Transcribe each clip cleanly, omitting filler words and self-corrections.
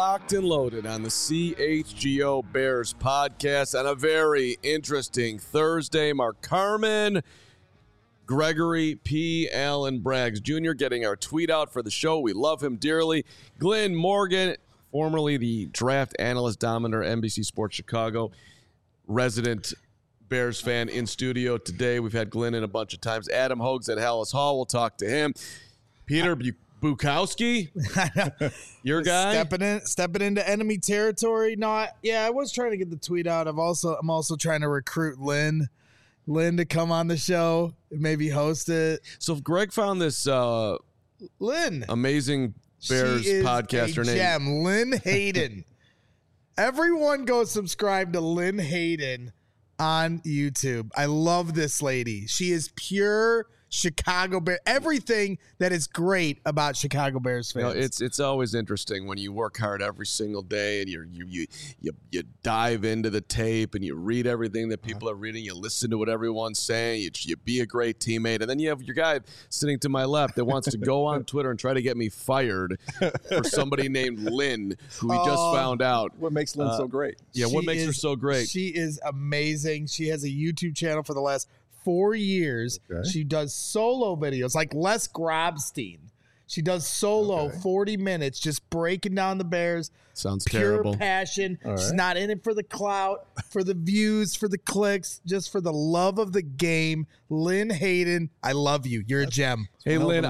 Locked and Loaded on the CHGO Bears podcast on a very interesting Thursday. Mark Carman, Gregory P. Allen Braggs Jr. getting our tweet out for the show. We love him dearly. Glenn Morgan, formerly the draft analyst, Dominer, NBC Sports Chicago, resident Bears fan in studio today. We've had Glenn in a bunch of times. Adam Hogues at Hallis Hall. We'll talk to him. Peter Bukowski, your guy, stepping into enemy territory. I was trying to get the tweet out. I'm also trying to recruit Lynn to come on the show, maybe host it. So if Greg found this Lynn, amazing Bears podcaster named gem, Lynn Hayden. Everyone go subscribe to Lynn Hayden on YouTube. I love this lady. She is pure Chicago Bears, everything that is great about Chicago Bears fans. You know, it's always interesting when you work hard every single day and you dive into the tape and you read everything that people are reading. You listen to what everyone's saying. You be a great teammate, and then you have your guy sitting to my left that wants to go on Twitter and try to get me fired for somebody named Lynn, who we just found out. What makes Lynn so great? Yeah, what makes her so great? She is amazing. She has a YouTube channel for the last 4 years. Okay. She does solo videos like Les Grobstein. She does solo 40 minutes just breaking down the Bears. Sounds pure terrible. Passion. Right. She's not in it for the clout, for the views, for the clicks, just for the love of the game. Lynn Hayden, I love you. You're a gem. Hey, Lynn,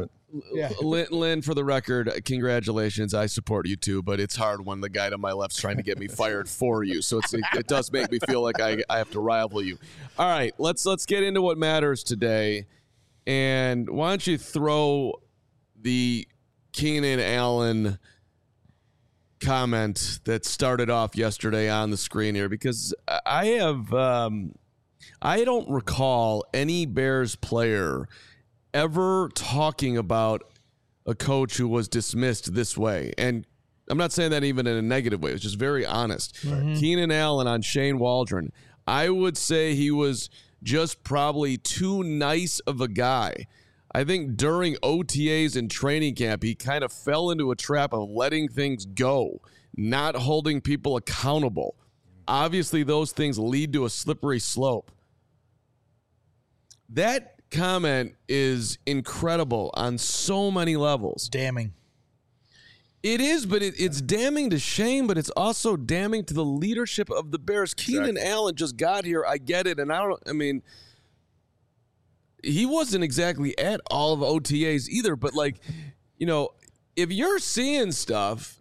Lynn, for the record, congratulations. I support you too, but it's hard when the guy to my left's trying to get me fired for you. So it does make me feel like I have to rival you. All right, let's get into what matters today. And why don't you throw the Keenan Allen comment that started off yesterday on the screen here, because I don't recall any Bears player ever talking about a coach who was dismissed this way. And I'm not saying that even in a negative way. It's just very honest. Mm-hmm. Keenan Allen on Shane Waldron. I would say he was just probably too nice of a guy. I think during OTAs and training camp, he kind of fell into a trap of letting things go, not holding people accountable. Obviously, those things lead to a slippery slope. That comment is incredible on so many levels. Damning. It is, but it's damning to Shane, but it's also damning to the leadership of the Bears. Exactly. Keenan Allen just got here. I get it. And he wasn't exactly at all of OTAs either, but if you're seeing stuff,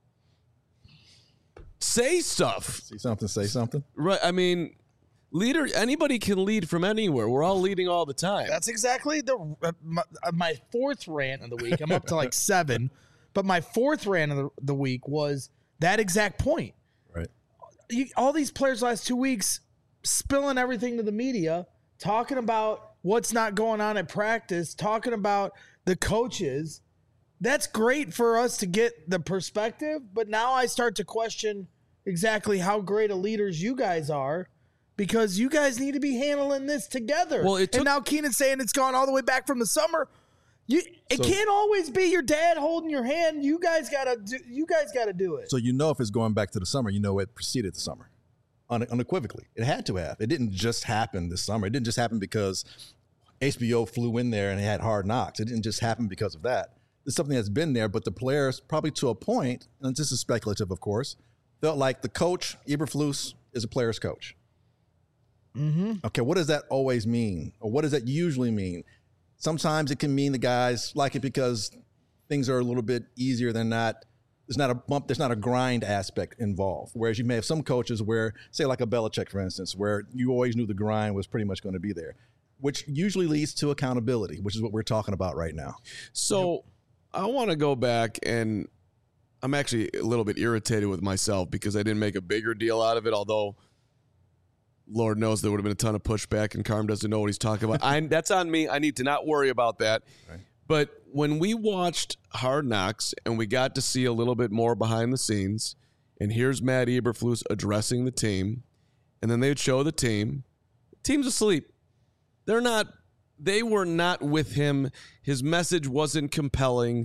say stuff. See something, say something. Right. Anybody can lead from anywhere. We're all leading all the time. That's exactly my fourth rant of the week. I'm up to like 7, but my fourth rant of the week was that exact point. Right. All these players last 2 weeks spilling everything to the media, talking about what's not going on at practice, talking about the coaches. That's great for us to get the perspective, but now I start to question exactly how great of leaders you guys are, because you guys need to be handling this together. Well, and now Keenan's saying it's gone all the way back from the summer. It can't always be your dad holding your hand. You guys gotta do it. So if it's going back to the summer, it preceded the summer. Unequivocally. It had to have. It didn't just happen this summer. It didn't just happen because HBO flew in there and it had Hard Knocks. It didn't just happen because of that. It's something that's been there, but the players, probably to a point, and this is speculative, of course, felt like the coach, Eberflus, is a player's coach. Mm-hmm. Okay, what does that always mean? Or what does that usually mean? Sometimes it can mean the guys like it because things are a little bit easier than not. There's not a bump, there's not a grind aspect involved. Whereas you may have some coaches where, say like a Belichick, for instance, where you always knew the grind was pretty much going to be there, which usually leads to accountability, which is what we're talking about right now. So I want to go back, and I'm actually a little bit irritated with myself because I didn't make a bigger deal out of it, although Lord knows there would have been a ton of pushback, and Carm doesn't know what he's talking about. That's on me. I need to not worry about that. Right. But when we watched Hard Knocks and we got to see a little bit more behind the scenes, and here's Matt Eberflus addressing the team, and then they would show the team. The team's asleep. They were not with him. His message wasn't compelling.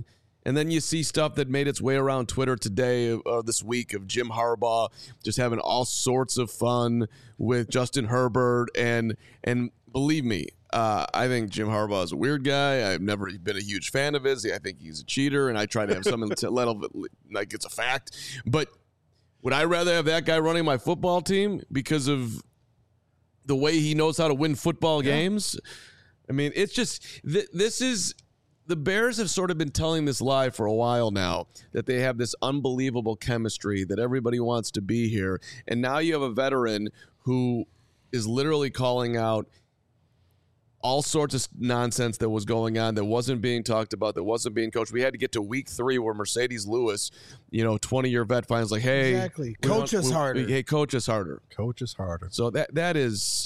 And then you see stuff that made its way around Twitter today or this week of Jim Harbaugh just having all sorts of fun with Justin Herbert. And believe me, I think Jim Harbaugh is a weird guy. I've never been a huge fan of his. I think he's a cheater, and I try to have something to let like it's a fact. But would I rather have that guy running my football team because of the way he knows how to win football games? I mean, it's just this is. The Bears have sort of been telling this lie for a while now that they have this unbelievable chemistry, that everybody wants to be here. And now you have a veteran who is literally calling out all sorts of nonsense that was going on, that wasn't being talked about, that wasn't being coached. We had to get to week 3 where Mercedes Lewis, 20-year vet, finds like, hey. Exactly. Coach us harder. Hey, coach us harder. Coach us harder. So that's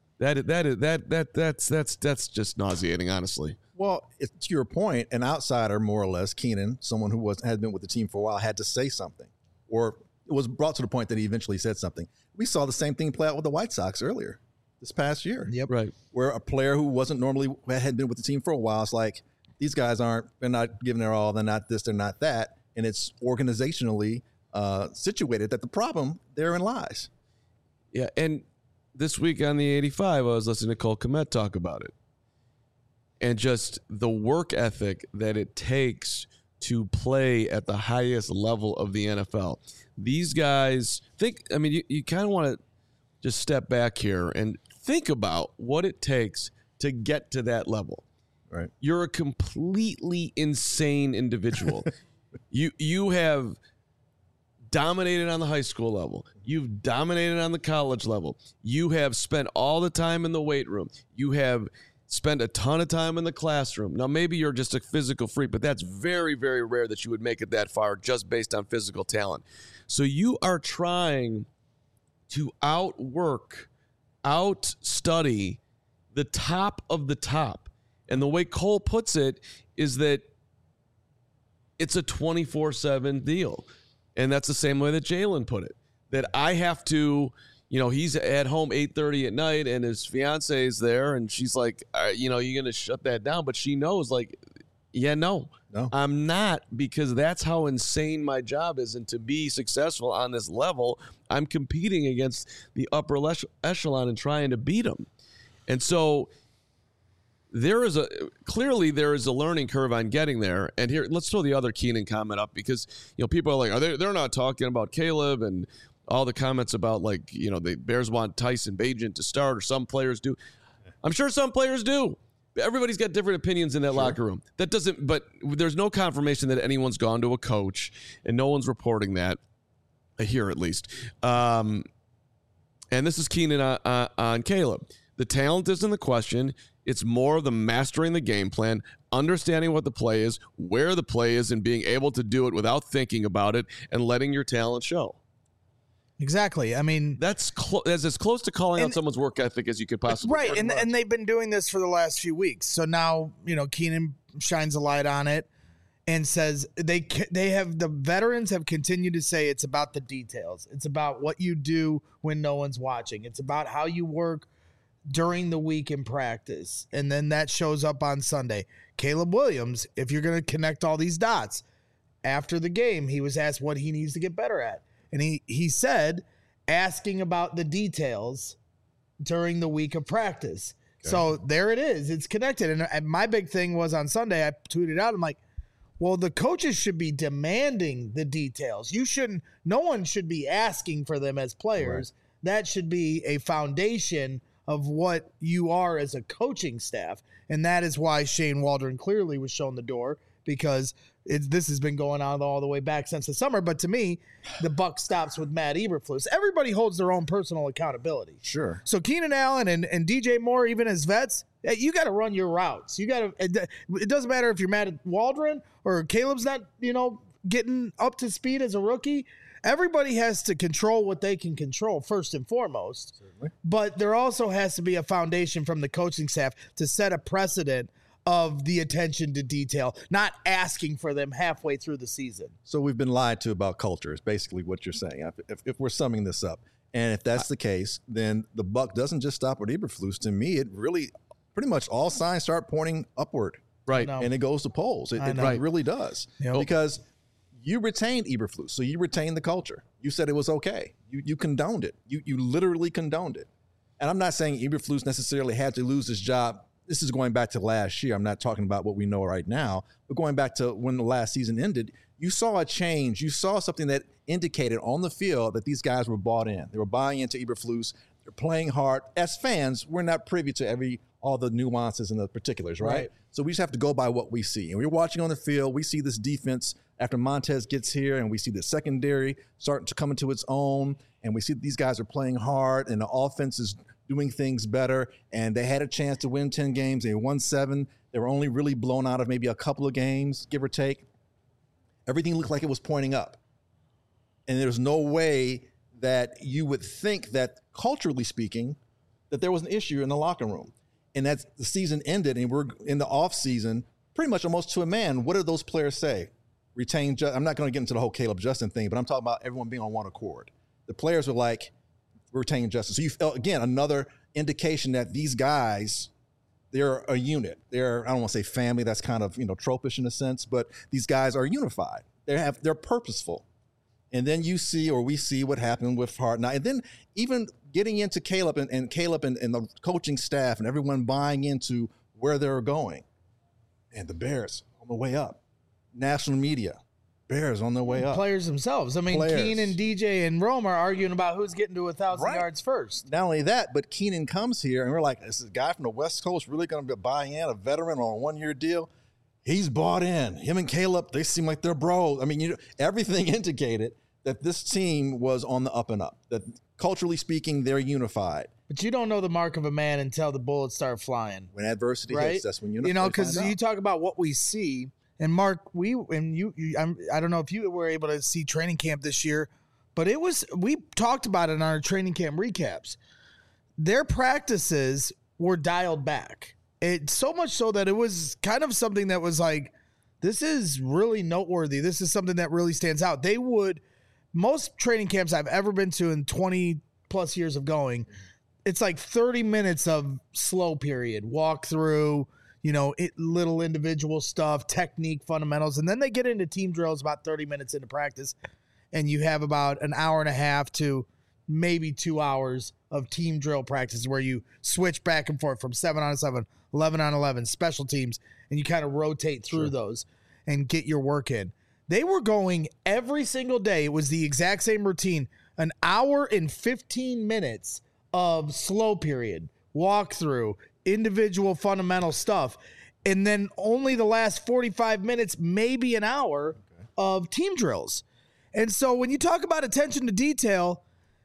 just nauseating, honestly. Well, to your point, an outsider, more or less, Keenan, someone who had been with the team for a while, had to say something, or it was brought to the point that he eventually said something. We saw the same thing play out with the White Sox earlier this past year. Yep. Right. Where a player who had been with the team for a while, it's like, these guys they're not giving their all, they're not this, they're not that. And it's organizationally situated that the problem therein lies. Yeah, and this week on the 85, I was listening to Cole Kmet talk about it. And just the work ethic that it takes to play at the highest level of the NFL. These guys you kind of want to just step back here and think about what it takes to get to that level. Right. You're a completely insane individual. You have dominated on the high school level. You've dominated on the college level. You have spent all the time in the weight room. You have spend a ton of time in the classroom. Now, maybe you're just a physical freak, but that's very, very rare that you would make it that far just based on physical talent. So you are trying to outstudy the top of the top. And the way Cole puts it is that it's a 24/7 deal. And that's the same way that Jalen put it, that I have to... he's at home 8:30 at night and his fiance is there and she's like, you're going to shut that down. But she knows no, I'm not, because that's how insane my job is. And to be successful on this level, I'm competing against the upper echelon and trying to beat them. And so there is a learning curve on getting there. And here, let's throw the other Keenan comment up because, people are like, they're not talking about Caleb and all the comments about the Bears want Tyson Bagent to start, or some players do. I'm sure some players do. Everybody's got different opinions in that locker room. But there's no confirmation that anyone's gone to a coach, and no one's reporting that, here at least. And this is Keenan on Caleb. The talent isn't the question. It's more of the mastering the game plan, understanding what the play is, where the play is, and being able to do it without thinking about it and letting your talent show. Exactly. I mean, that's as close to calling out someone's work ethic as you could possibly. Right, and they've been doing this for the last few weeks. So now, Keenan shines a light on it and says the veterans have continued to say it's about the details. It's about what you do when no one's watching. It's about how you work during the week in practice, and then that shows up on Sunday. Caleb Williams, if you're going to connect all these dots, after the game, he was asked what he needs to get better at. And he said, asking about the details during the week of practice. Okay. So there it is. It's connected. And my big thing was on Sunday, I tweeted out, I'm like, well, the coaches should be demanding the details. No one should be asking for them as players. Right. That should be a foundation of what you are as a coaching staff. And that is why Shane Waldron clearly was shown the door, because this has been going on all the way back since the summer. But to me, the buck stops with Matt Eberflus. Everybody holds their own personal accountability. Sure. So Keenan Allen and DJ Moore, even as vets, you got to run your routes. It doesn't matter if you're Matt Waldron or Caleb's not, getting up to speed as a rookie. Everybody has to control what they can control first and foremost. Certainly. But there also has to be a foundation from the coaching staff to set a precedent of the attention to detail, not asking for them halfway through the season. So we've been lied to about culture is basically what you're saying, if we're summing this up. And if that's the case, then the buck doesn't just stop with Eberflus. To me, it really pretty much all signs start pointing upward. Right. And it goes to polls. It really does. Yep. Because you retained Eberflus, so you retained the culture. You said it was okay. You condoned it. You literally condoned it. And I'm not saying Eberflus necessarily had to lose his job. This is going back to last year. I'm not talking about what we know right now, but going back to when the last season ended, you saw a change. You saw something that indicated on the field that these guys were bought in. They were buying into Eberflus. They're playing hard. As fans, we're not privy to all the nuances and the particulars, right? So we just have to go by what we see. And we're watching on the field. We see this defense after Montez gets here, and we see the secondary starting to come into its own, and we see these guys are playing hard, and the offense is doing things better, and they had a chance to win 10 games. They won 7. They were only really blown out of maybe a couple of games, give or take. Everything looked like it was pointing up. And there's no way that you would think that, culturally speaking, that there was an issue in the locker room. And that's the season ended, and we're in the off season, pretty much almost to a man. What did those players say? I'm not going to get into the whole Caleb Justin thing, but I'm talking about everyone being on one accord. The players were like, retain Justin. So you felt, again, another indication that these guys, they're a unit. They're, I don't want to say family, that's kind of, tropish in a sense, but these guys are unified. They're purposeful. And then we see what happened with Hart. Now, and then even getting into Caleb and Caleb and the coaching staff and everyone buying into where they're going. And the Bears on the way up. National media. Bears on their way up. Players themselves. I mean, Keenan, DJ, and Rome are arguing about who's getting to 1,000 yards first. Not only that, but Keenan comes here, and we're like, is this guy from the West Coast really going to buy in, a veteran on a 1-year deal? He's bought in. Him and Caleb, they seem like they're bros. I mean, everything indicated that this team was on the up and up, that culturally speaking, they're unified. But you don't know the mark of a man until the bullets start flying. When adversity hits, that's when because you talk about what we see. And Mark, I don't know if you were able to see training camp this year, but we talked about it in our training camp recaps. Their practices were dialed back. It's so much so that it was kind of something that was like, this is really noteworthy. This is something that really stands out. Most training camps I've ever been to in 20 plus years of going, it's like 30 minutes of slow period, walk through, little individual stuff, technique, fundamentals. And then they get into team drills about 30 minutes into practice. And you have about an hour and a half to maybe 2 hours of team drill practice where you switch back and forth from 7-on-7, 11-on-11, special teams, and you kind of rotate through those and get your work in. They were going every single day. It was the exact same routine, an hour and 15 minutes of slow period, walk through, individual fundamental stuff, and then only the last 45 minutes, maybe an hour of team drills. And so when you talk about attention to detail,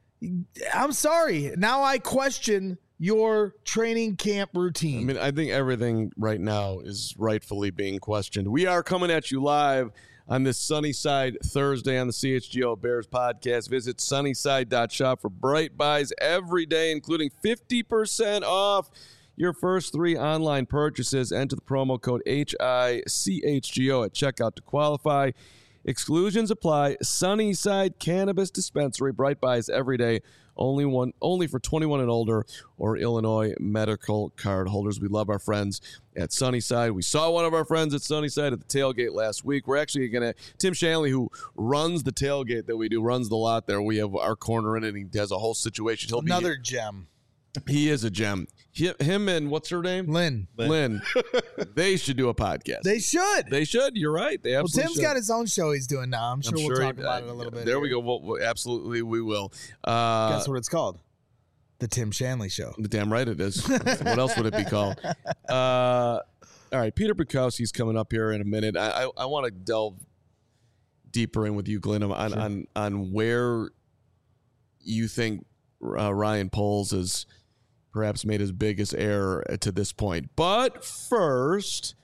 I'm sorry. Now I question your training camp routine. I mean, I think everything right now is rightfully being questioned. We are coming at you live on this Sunnyside Thursday on the CHGO Bears podcast. Visit sunnyside.shop for bright buys every day, including 50% off your first 3 online purchases. Enter the promo code HICHGO at checkout to qualify. Exclusions apply. Sunnyside Cannabis Dispensary. Bright buys every day. Only for 21 and older or Illinois medical card holders. We love our friends at Sunnyside. We saw one of our friends at Sunnyside at the tailgate last week. We're actually going to, Tim Shanley, who runs the tailgate that we do, runs the lot there. We have our corner in it, and he has a whole situation. Another gem. He is a gem. Him and what's her name? Lynn. They should do a podcast. They should. You're right. They absolutely Tim's got his own show he's doing now. I'm sure we'll talk about it a little bit. There we go. Well, absolutely, we will. Guess what it's called? The Tim Shanley Show. Damn right it is. What else would it be called? All right, Peter Bukowski's coming up here in a minute. I want to delve deeper in with you, Glenn, on where you think Ryan Poles has perhaps made his biggest error to this point. But first,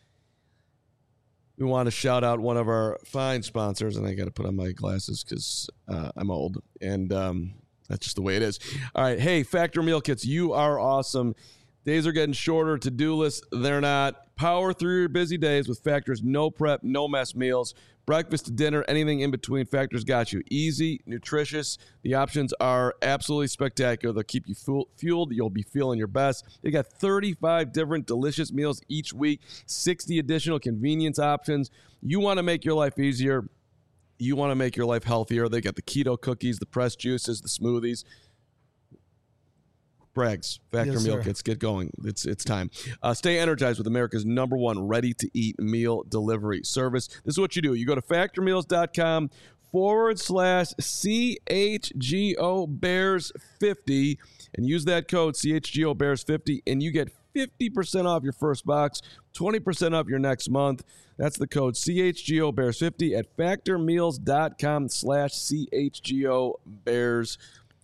we want to shout out one of our fine sponsors, and I got to put on my glasses because I'm old, and that's just the way it is. All right, hey, Factor Meal Kits, you are awesome. Days are getting shorter. To-do lists, they're not. Power through your busy days with Factor's no prep, no mess meals. Breakfast to dinner, anything in between, Factor's got you. Easy, nutritious. The options are absolutely spectacular. They'll keep you fueled. You'll be feeling your best. They got 35 different delicious meals each week, 60 additional convenience options. You want to make your life easier. You want to make your life healthier. They got the keto cookies, the pressed juices, the smoothies. Brags, Factor Yes, meal sir. kits, get going. It's time. Stay energized with America's #1 ready-to-eat meal delivery service. This is what you do. You go to factormeals.com/CHGO Bears 50 and use that code CHGO Bears 50 and you get 50% off your first box, 20% off your next month. That's the code CHGO Bears 50 at factormeals.com/CHGO Bears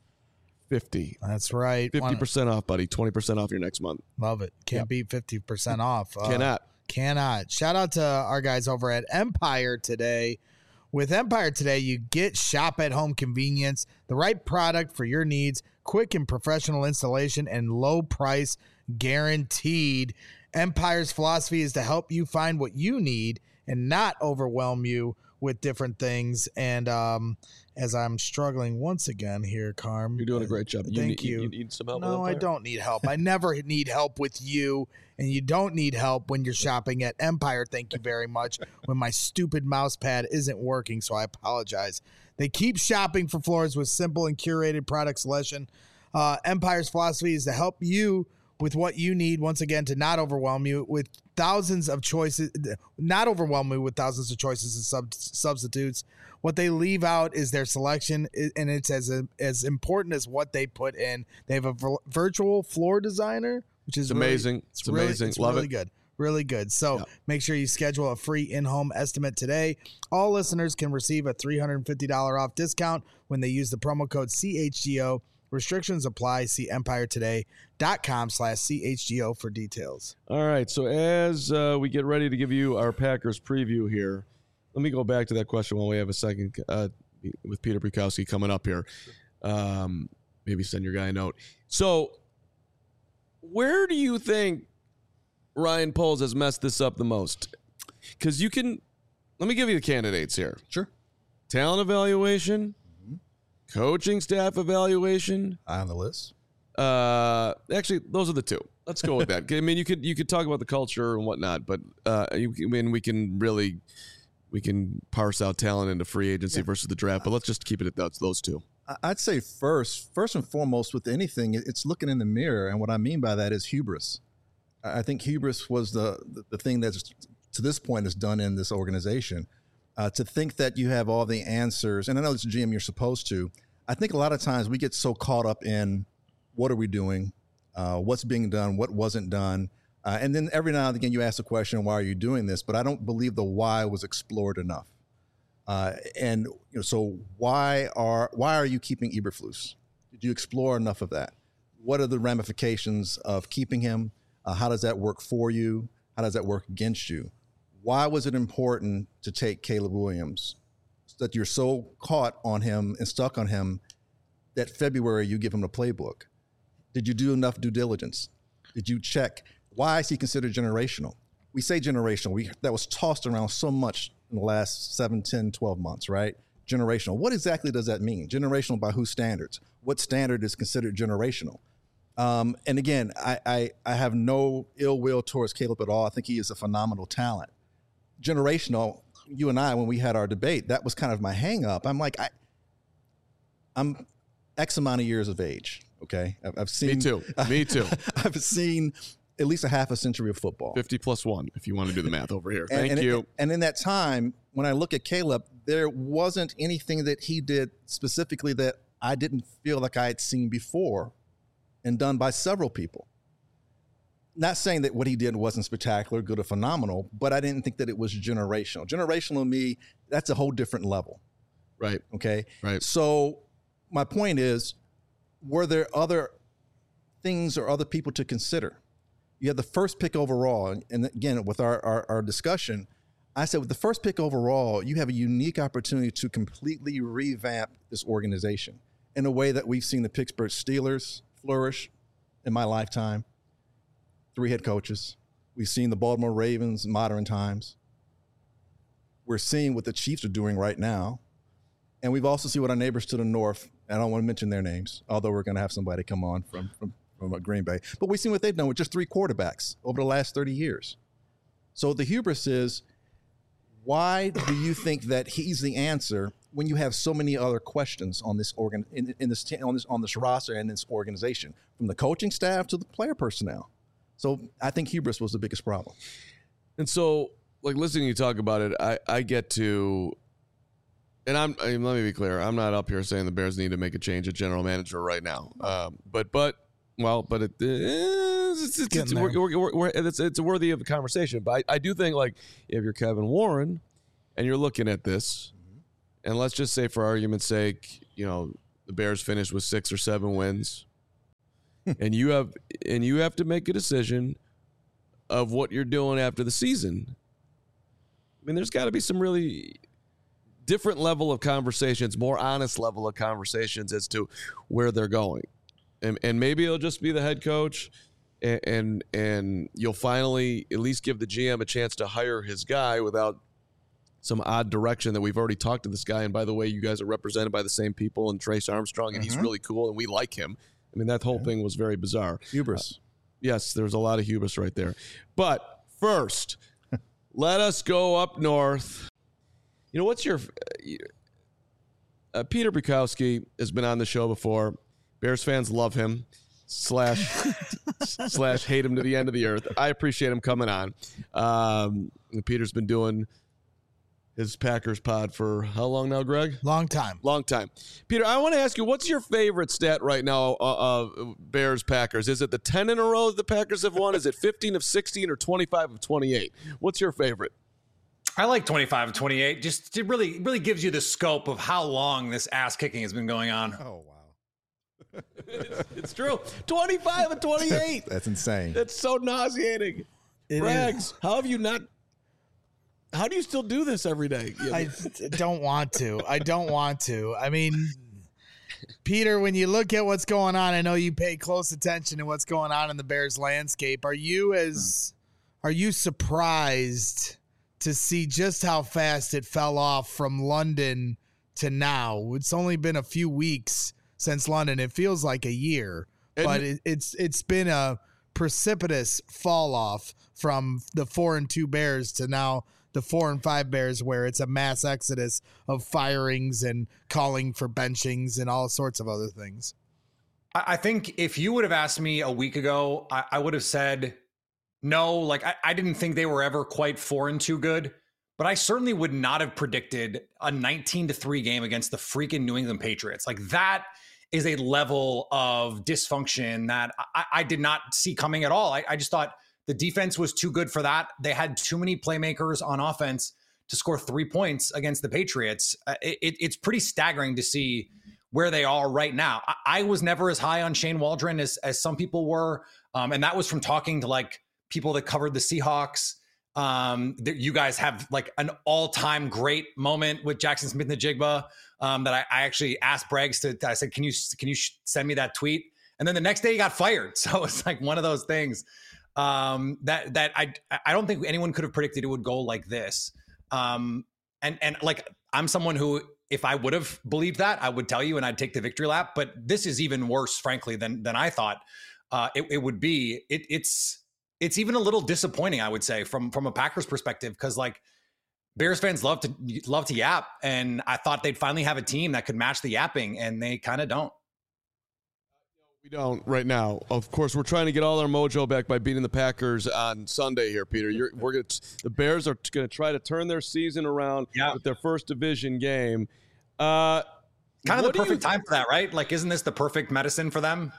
50. That's right. 50% off, buddy. 20% off your next month. Love it. Can't beat 50% off. Cannot. Shout out to our guys over at Empire Today. With Empire Today, you get shop at home convenience, the right product for your needs, quick and professional installation, and low price guaranteed. Empire's philosophy is to help you find what you need and not overwhelm you with different things. And as I'm struggling once again here, Carm. You're doing a great job. Thank you. You need some help? No, with I Empire? don't need help. I never need help with you, and you don't need help when you're shopping at Empire. Thank you very much. When my stupid mouse pad isn't working, so I apologize. They keep shopping for floors with simple and curated product selection. Empire's philosophy is to help you with what you need, once again, to not overwhelm you with thousands of choices, not overwhelm you with thousands of choices and substitutes. What they leave out is their selection, and it's as important as what they put in. They have a virtual floor designer, which is amazing. It's amazing. It's Love really it. good. Really good. So make sure you schedule a free in-home estimate today. All listeners can receive a $350 off discount when they use the promo code CHGO. Restrictions apply. See empiretoday.com/CHGO for details. All right. So as we get ready to give you our Packers preview here, let me go back to that question while we have a second with Peter Bukowski coming up here. Maybe send your guy a note. So where do you think Ryan Poles has messed this up the most? Because let me give you the candidates here. Sure. Talent evaluation, coaching staff evaluation. Eye on the list. Actually, those are the two. Let's go with that. I mean, you could talk about the culture and whatnot, but we can parse out talent into free agency versus the draft. But let's just keep it at those two. I'd say first and foremost with anything, it's looking in the mirror, and what I mean by that is hubris. I think hubris was the thing that's to this point is done in this organization. To think that you have all the answers, and I know as a GM you're supposed to. I think a lot of times we get so caught up in what are we doing, what's being done, what wasn't done, and then every now and again you ask the question, why are you doing this? But I don't believe the why was explored enough. So why are you keeping Eberflus? Did you explore enough of that? What are the ramifications of keeping him? How does that work for you? How does that work against you? Why was it important to take Caleb Williams? That you're so caught on him and stuck on him that February you give him the playbook. Did you do enough due diligence? Did you check? Why is he considered generational? We say generational. That was tossed around so much in the last 7, 10, 12 months, right? Generational. What exactly does that mean? Generational by whose standards? What standard is considered generational? And again, I have no ill will towards Caleb at all. I think he is a phenomenal talent. Generational, you and I, when we had our debate, that was kind of my hang up. I'm like, I'm X amount of years of age. Okay. I've seen. Me too. I've seen at least a half a century of football. 50 plus 1, if you want to do the math over here. Thank you. And in that time, when I look at Caleb, there wasn't anything that he did specifically that I didn't feel like I had seen before and done by several people. Not saying that what he did wasn't spectacular, good, or phenomenal, but I didn't think that it was generational. Generational to me, that's a whole different level. Right. Okay. Right. So my point is, were there other things or other people to consider? You had the first pick overall. And again, with our discussion, I said with the first pick overall, you have a unique opportunity to completely revamp this organization in a way that we've seen the Pittsburgh Steelers flourish in my lifetime. 3 head coaches, We've seen the Baltimore Ravens in modern times. We're seeing what the Chiefs are doing right now. And we've also seen what our neighbors to the north, I don't want to mention their names, although we're going to have somebody come on from Green Bay. But we've seen what they've done with just 3 quarterbacks over the last 30 years. So the hubris is, why do you think that he's the answer when you have so many other questions on this on this roster and this organization, from the coaching staff to the player personnel? So I think hubris was the biggest problem. And so, like, listening to you talk about it, I get to, and let me be clear, I'm not up here saying the Bears need to make a change at general manager right now. But it's worthy of a conversation. But I do think, like, if you're Kevin Warren and you're looking at this, and let's just say for argument's sake, the Bears finished with 6 or 7 wins, and you have to make a decision of what you're doing after the season. I mean, there's got to be some really different level of conversations, more honest level of conversations as to where they're going. And maybe it'll just be the head coach, and you'll finally at least give the GM a chance to hire his guy without some odd direction that we've already talked to this guy. And by the way, you guys are represented by the same people, and Trace Armstrong, and he's really cool, and we like him. I mean, that whole thing was very bizarre. Hubris. Yes, there's a lot of hubris right there. But first, let us go up north. What's your Peter Bukowski has been on the show before. Bears fans love him slash hate him to the end of the earth. I appreciate him coming on. Peter's been doing his Packers pod for how long now, Greg? Long time. Peter, I want to ask you, what's your favorite stat right now, Bears Packers? Is it the 10 in a row the Packers have won? Is it 15 of 16 or 25 of 28? What's your favorite? I like 25 of 28. Just it really gives you the scope of how long this ass kicking has been going on. Oh, wow. It's true. 25 and 28. That's insane. That's so nauseating. Rags, how do you still do this every day? I don't want to. I mean, Peter, when you look at what's going on, I know you pay close attention to what's going on in the Bears landscape. Are you surprised to see just how fast it fell off from London to now? It's only been a few weeks since London. It feels like a year, but it's been a precipitous fall off from the 4-2 Bears to now the 4-5 Bears, where it's a mass exodus of firings and calling for benchings and all sorts of other things. I think if you would have asked me a week ago, I would have said no. Like, I didn't think they were ever quite 4-2 good, but I certainly would not have predicted a 19-3 game against the freaking New England Patriots. Like, that is a level of dysfunction that I did not see coming at all. I just thought the defense was too good for that. They had too many playmakers on offense to score 3 points against the Patriots. It's pretty staggering to see where they are right now. I was never as high on Shane Waldron as some people were. And that was from talking to like people that covered the Seahawks. You guys have like an all-time great moment with Jackson Smith-Njigba that I actually asked Braggs I said, can you send me that tweet? And then the next day he got fired. So it's like one of those things that I don't think anyone could have predicted it would go like this. And like, I'm someone who, if I would have believed that, I would tell you and I'd take the victory lap. But this is even worse, frankly, than I thought it would be. It's even a little disappointing, I would say, from a Packers perspective, because like Bears fans love to yap, and I thought they'd finally have a team that could match the yapping, and they kind of don't. We don't right now. Of course, we're trying to get all our mojo back by beating the Packers on Sunday here, Peter. The Bears are going to try to turn their season around with their first division game. Kind of the perfect time for that, right? Like, isn't this the perfect medicine for them?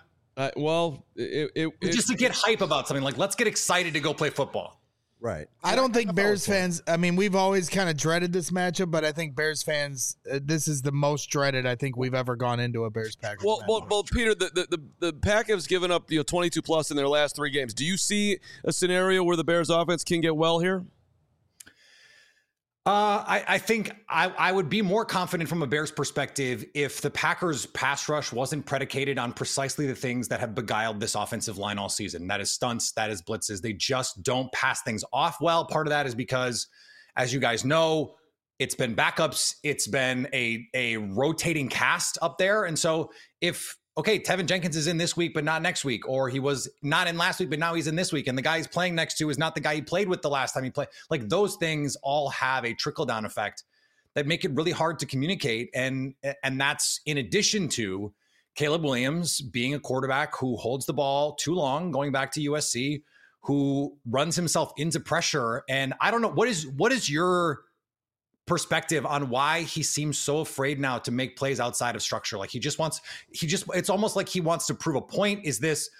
Just to get hype about something, like, let's get excited to go play football. Right. I don't think Bears fans, I mean, we've always kind of dreaded this matchup, but I think Bears fans, this is the most dreaded I think we've ever gone into a Bears-Packers match. Well, Peter, the Pack has given up 22 plus in their last 3 games. Do you see a scenario where the Bears offense can get well here? I think I would be more confident from a Bears perspective if the Packers pass rush wasn't predicated on precisely the things that have beguiled this offensive line all season. That is stunts, that is blitzes. They just don't pass things off well. Part of that is because, as you guys know, it's been backups. It's been a rotating cast up there. And so Tevin Jenkins is in this week, but not next week, or he was not in last week, but now he's in this week, and the guy he's playing next to is not the guy he played with the last time he played. Like, those things all have a trickle-down effect that make it really hard to communicate. And that's in addition to Caleb Williams being a quarterback who holds the ball too long, going back to USC, who runs himself into pressure. And I don't know, what is your perspective on why he seems so afraid now to make plays outside of structure? Like it's almost like he wants to prove a point. Is this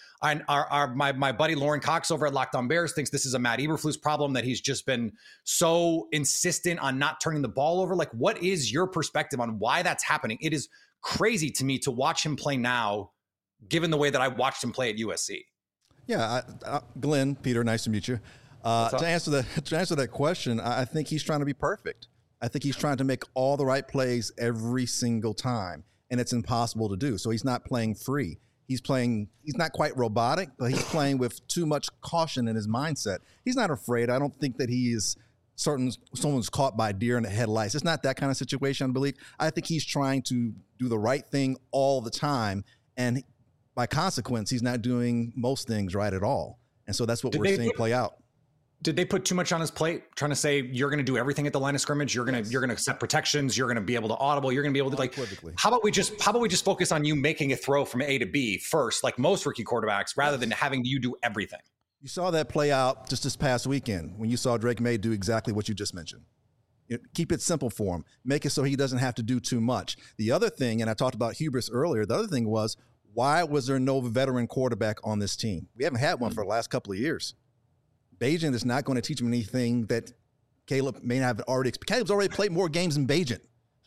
my buddy Lauren Cox over at Locked On Bears thinks this is a Matt Eberflus problem, that he's just been so insistent on not turning the ball over? Like, what is your perspective on why that's happening? It is crazy to me to watch him play now, given the way that I watched him play at USC. Yeah, Glenn, Peter, nice to meet you. To answer that question, I think he's trying to be perfect. I think he's trying to make all the right plays every single time, and it's impossible to do. So he's not playing free. He's not quite robotic, but he's playing with too much caution in his mindset. He's not afraid. I don't think that he is certain someone's caught by a deer in the headlights. It's not that kind of situation, I believe. I think he's trying to do the right thing all the time, and by consequence, he's not doing most things right at all. And so that's what we're seeing play out. Did they put too much on his plate, trying to say you're going to do everything at the line of scrimmage? You're going to set protections. You're going to be able to audible. You're going to be able to, like, how about we just focus on you making a throw from A to B first, like most rookie quarterbacks, rather than having you do everything? You saw that play out just this past weekend when you saw Drake May do exactly what you just mentioned. Keep it simple for him. Make it so he doesn't have to do too much. The other thing, and I talked about hubris earlier, the other thing was, why was there no veteran quarterback on this team? We haven't had one for the last couple of years. Bagent is not going to teach him anything that Caleb may not have already. Caleb's already played more games than Bagent,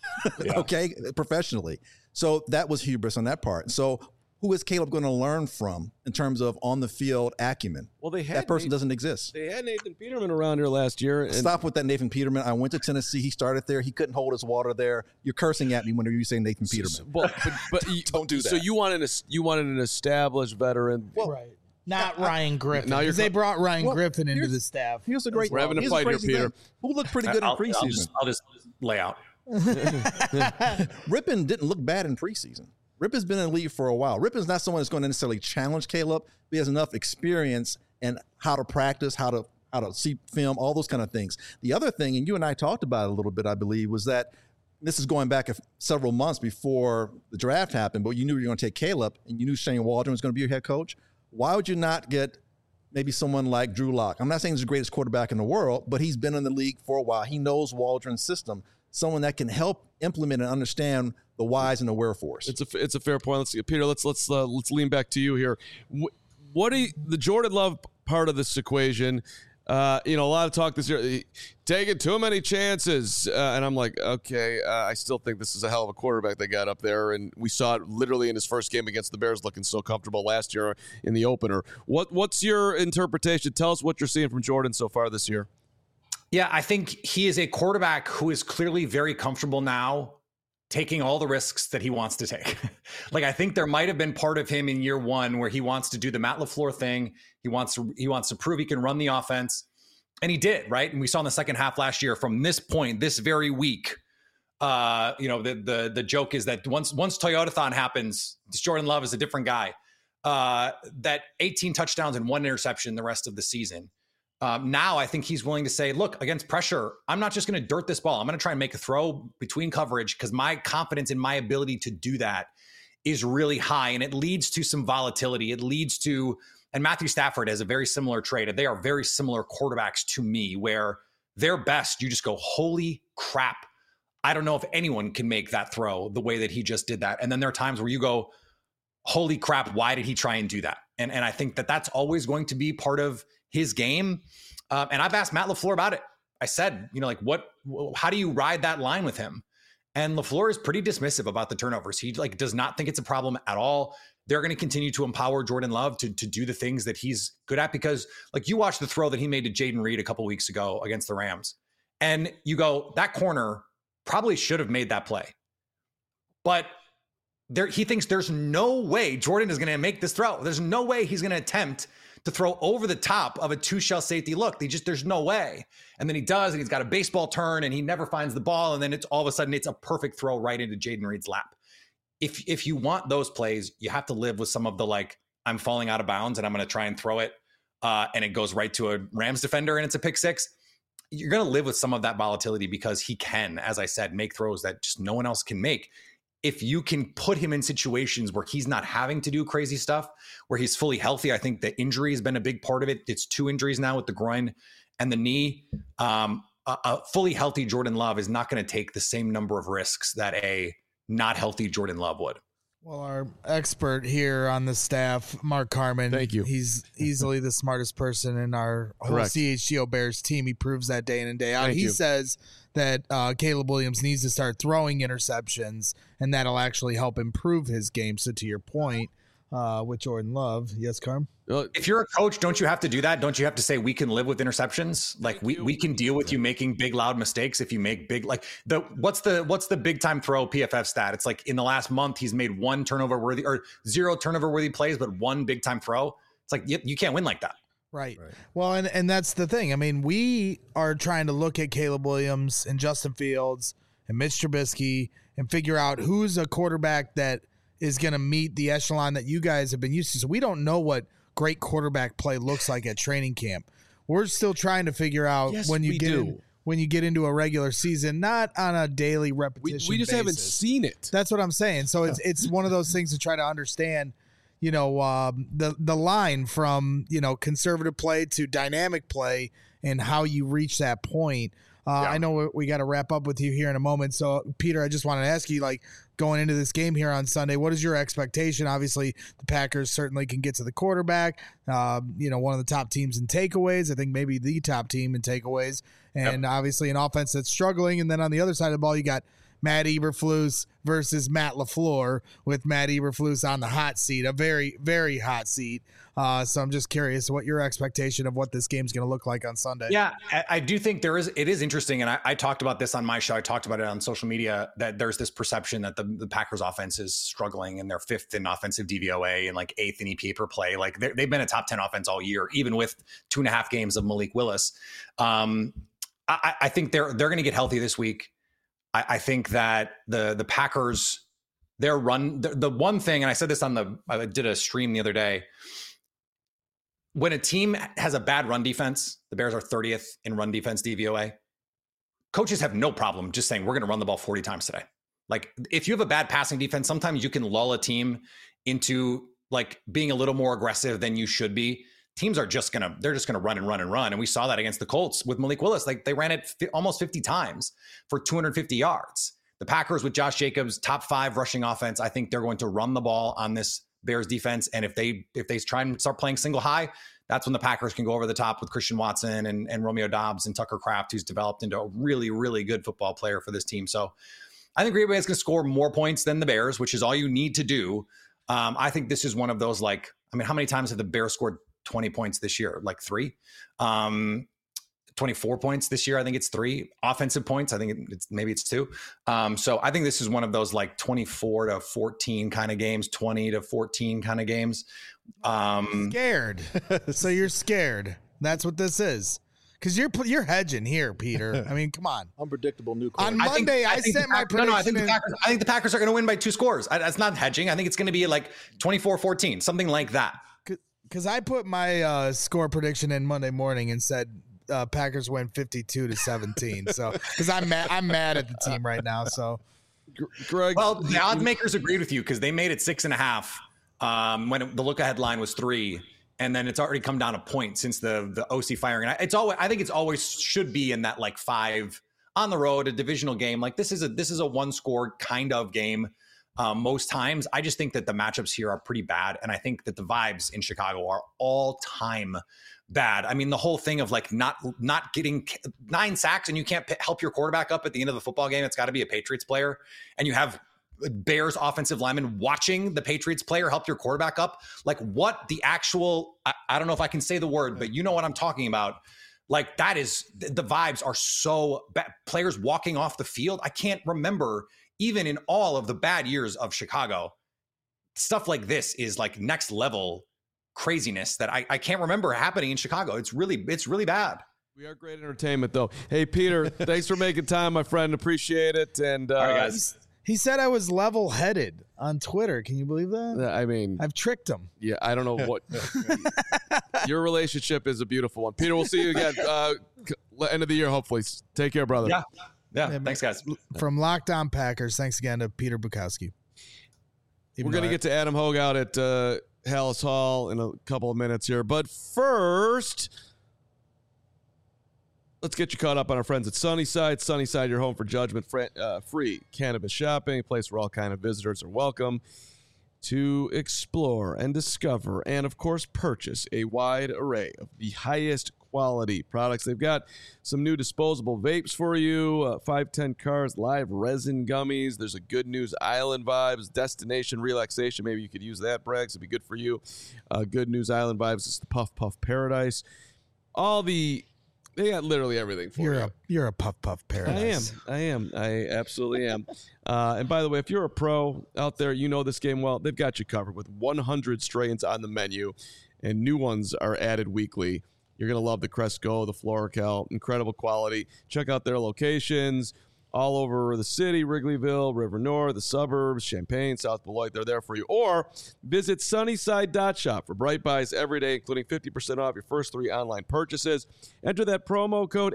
okay, professionally. So that was hubris on that part. So who is Caleb going to learn from in terms of on-the-field acumen? Well, that person doesn't exist. They had Nathan Peterman around here last year. Stop with that Nathan Peterman. I went to Tennessee. He started there. He couldn't hold his water there. You're cursing at me when you say Nathan Peterman. But don't do that. So you wanted an established veteran. Well, right. Not Ryan Griffin, because they brought Ryan Griffin into the staff. Here's a great. We're having a fight here, Peter. Who looked pretty good in preseason? I'll just lay out. Rypien didn't look bad in preseason. Rypien's been in the league for a while. Rypien's not someone that's going to necessarily challenge Caleb, but he has enough experience and how to practice, how to see film, all those kind of things. The other thing, and you and I talked about it a little bit, I believe, was that this is going back several months before the draft happened, but you knew you were going to take Caleb, and you knew Shane Waldron was going to be your head coach. Why would you not get maybe someone like Drew Lock? I'm not saying he's the greatest quarterback in the world, but he's been in the league for a while. He knows Waldron's system. Someone that can help implement and understand the whys and the wherefores. It's a fair point. Let's see, Peter. Let's lean back to you here. What do the Jordan Love part of this equation? A lot of talk this year, taking too many chances. And I'm like, okay, I still think this is a hell of a quarterback they got up there. And we saw it literally in his first game against the Bears looking so comfortable last year in the opener. What's your interpretation? Tell us what you're seeing from Jordan so far this year. Yeah, I think he is a quarterback who is clearly very comfortable now taking all the risks that he wants to take. Like, I think there might have been part of him in year one where he wants to do the Matt LaFleur thing. He wants to prove he can run the offense. And he did, right? And we saw in the second half last year, from this point, this very week, the joke is that once Toyotathon happens, Jordan Love is a different guy. That 18 touchdowns and 1 interception the rest of the season. Now I think he's willing to say, look, against pressure, I'm not just going to dirt this ball. I'm going to try and make a throw between coverage, because my confidence in my ability to do that is really high. And it leads to some volatility. It leads to, and Matthew Stafford has a very similar trait. They are very similar quarterbacks to me, where they're best. You just go, holy crap. I don't know if anyone can make that throw the way that he just did that. And then there are times where you go, holy crap, why did he try and do that? And I think that that's always going to be part of his game. And I've asked Matt LaFleur about it. I said, how do you ride that line with him? And LaFleur is pretty dismissive about the turnovers. He does not think it's a problem at all. They're going to continue to empower Jordan Love to do the things that he's good at, because you watch the throw that he made to Jaden Reed a couple weeks ago against the Rams. And you go, that corner probably should have made that play. But he thinks there's no way Jordan is going to make this throw. There's no way he's going to attempt to throw over the top of a 2-shell safety look. There's no way. And then he does, and he's got a baseball turn, and he never finds the ball. And then it's all of a sudden, it's a perfect throw right into Jayden Reed's lap. If you want those plays, you have to live with some of the, like, I'm falling out of bounds and I'm going to try and throw it. And it goes right to a Rams defender and it's a pick six. You're going to live with some of that volatility because he can, as I said, make throws that just no one else can make. If you can put him in situations where he's not having to do crazy stuff, where he's fully healthy, I think the injury has been a big part of it. It's 2 injuries now with the groin and the knee. A fully healthy Jordan Love is not going to take the same number of risks that a not healthy Jordan Love would. Well, our expert here on the staff, Mark Carman. Thank you. He's easily the smartest person in our whole Correct. CHGO Bears team. He proves that day in and day out. Thank He you. says that Caleb Williams needs to start throwing interceptions, and that'll actually help improve his game. So to your point, with Jordan Love, yes, Carm? If you're a coach, don't you have to do that? Don't you have to say we can live with interceptions? Like we can deal with you making big loud mistakes if you make big, like what's the big time throw PFF stat? It's like in the last month he's made 1 turnover worthy or 0 turnover worthy plays, but 1 big time throw. It's like you can't win like that. Right. Well, and that's the thing. I mean, we are trying to look at Caleb Williams and Justin Fields and Mitch Trubisky and figure out who's a quarterback that is going to meet the echelon that you guys have been used to. So we don't know what great quarterback play looks like at training camp. We're still trying to figure out when you get into a regular season, not on a daily repetition. We just haven't seen it. That's what I'm saying. So it's one of those things to try to understand, the line from, conservative play to dynamic play and how you reach that point. I know we got to wrap up with you here in a moment. So, Peter, I just wanted to ask you, going into this game here on Sunday, what is your expectation? Obviously, the Packers certainly can get to the quarterback. One of the top teams in takeaways. I think maybe the top team in takeaways. And obviously an offense that's struggling. And then on the other side of the ball, you got Matt Eberflus versus Matt LaFleur, with Matt Eberflus on the hot seat, a very, very hot seat. So I'm just curious what your expectation of what this game's going to look like on Sunday. Yeah, I do think it is interesting. And I talked about this on my show. I talked about it on social media, that there's this perception that the Packers offense is struggling and they're 5th in offensive DVOA and 8th in EPA per play. Like they've been a top 10 offense all year, even with 2.5 games of Malik Willis. I think they're going to get healthy this week. I think that the Packers, their run, the one thing, and I said this I did a stream the other day, when a team has a bad run defense, the Bears are 30th in run defense DVOA. Coaches have no problem just saying, we're going to run the ball 40 times today. Like if you have a bad passing defense, sometimes you can lull a team into being a little more aggressive than you should be. Teams are just going to run and run and run. And we saw that against the Colts with Malik Willis. They ran it almost 50 times for 250 yards. The Packers with Josh Jacobs, top 5 rushing offense. I think they're going to run the ball on this Bears defense. And if they try and start playing single high, that's when the Packers can go over the top with Christian Watson and Romeo Doubs and Tucker Kraft, who's developed into a really, really good football player for this team. So I think Green Bay is going to score more points than the Bears, which is all you need to do. I think this is one of those, how many times have the Bears scored 20 points this year? 3. 24 points this year. I think it's 3 offensive points. I think it's 2. So I think this is one of those 24 to 14 kind of games, 20 to 14 kind of games. Scared. So you're scared. That's what this is. Because you're hedging here, Peter. I mean, come on. Unpredictable new On quarterback. Monday, I sent my prediction. I think the Packers are going to win by 2 scores. That's not hedging. I think it's going to be 24-14, something like that. Because I put my score prediction in Monday morning and said Packers win 52-17. So because I'm mad at the team right now. So, Greg, well, the odds makers agreed with you because they made it 6.5 when the look ahead line was 3, and then it's already come down a point since the OC firing. And I think it's always should be in that 5 on the road, a divisional game. This is a 1-score kind of game. Most times, I just think that the matchups here are pretty bad. And I think that the vibes in Chicago are all time bad. I mean, the whole thing of not getting 9 sacks and you can't help your quarterback up at the end of the football game. It's got to be a Patriots player. And you have Bears offensive linemen watching the Patriots player help your quarterback up. What the actual, I don't know if I can say the word, but you know what I'm talking about. Like that is the vibes are so bad. Players walking off the field. I can't remember even in all of the bad years of Chicago, stuff like this is like next level craziness that I can't remember happening in Chicago. It's really bad. We are great entertainment, though. Hey, Peter, thanks for making time, my friend. Appreciate it. And all right, guys. He said I was level-headed on Twitter. Can you believe that? I mean, I've tricked him. Yeah, I don't know what. Your relationship is a beautiful one. Peter, we'll see you again end of the year, hopefully. Take care, brother. Yeah. Thanks, guys. From Locked On Packers, thanks again to Peter Bukowski. We're going to get to Adam Hogue out at Hallis Hall in a couple of minutes here. But first, let's get you caught up on our friends at Sunnyside. Sunnyside, your home for judgment-free cannabis shopping, a place where all kind of visitors are welcome to explore and discover and, of course, purchase a wide array of the highest quality products. They've got some new disposable vapes for you, 510 cars, live resin gummies. There's a Good News Island vibes, destination relaxation. Maybe you could use that, Braggs. It'd be good for you. Good News Island vibes is the Puff Puff Paradise. They got literally everything for you. You're a puff paradise. I am. I absolutely am. And by the way, if you're a pro out there, you know this game well. They've got you covered with 100 strains on the menu, and new ones are added weekly. You're going to love the Cresco, the Floracal, incredible quality. Check out their locations all over the city, Wrigleyville, River North, the suburbs, Champaign, South Beloit. They're there for you. Or visit Sunnyside.shop for Bright Buys every day, including 50% off your first 3 online purchases. Enter that promo code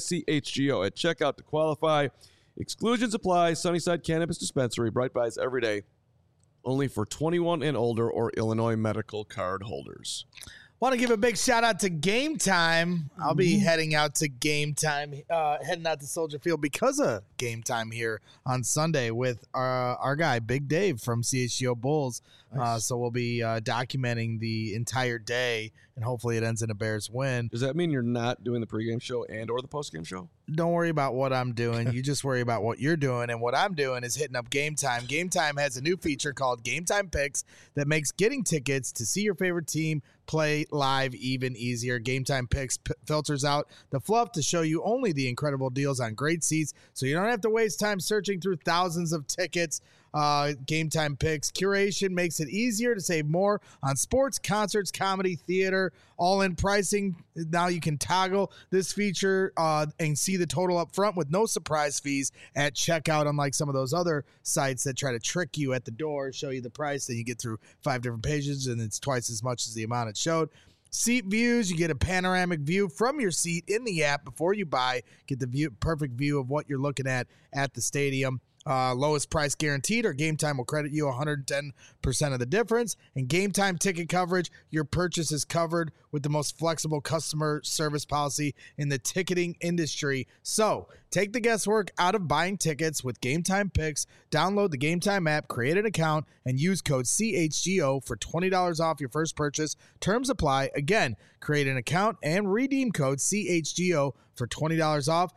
HICHGO at checkout to qualify. Exclusions apply. Sunnyside Cannabis Dispensary, Bright Buys every day, only for 21 and older or Illinois medical card holders. Want to give a big shout out to Game Time. I'll be heading out to Game Time, heading out to Soldier Field because of Game Time here on Sunday with our guy, Big Dave from CHGO Bulls. Nice. So we'll be documenting the entire day, and hopefully it ends in a Bears win. Does that mean you're not doing the pregame show and or the postgame show? Don't worry about what I'm doing. You just worry about what you're doing. And what I'm doing is hitting up Game Time. Game Time has a new feature called Game Time Picks that makes getting tickets to see your favorite team play live even easier. Game Time Picks filters out the fluff to show you only the incredible deals on great seats, so you don't have to waste time searching through thousands of tickets. Game Time Picks curation makes it easier to save more on sports, concerts, comedy, theater, all-in pricing. Now you can toggle this feature and see the total up front with no surprise fees at checkout, unlike some of those other sites that try to trick you at the door, show you the price, then you get through 5 different pages and it's twice as much as the amount it showed. Seat views, you get a panoramic view from your seat in the app before you buy. Get the perfect view of what you're looking at the stadium. Lowest price guaranteed, or Game Time will credit you 110% of the difference. And Game Time ticket coverage, your purchase is covered with the most flexible customer service policy in the ticketing industry. So take the guesswork out of buying tickets with Game Time Picks. Download the Game Time app, create an account, and use code CHGO for $20 off your first purchase. Terms apply. Again, create an account and redeem code CHGO for $20 off.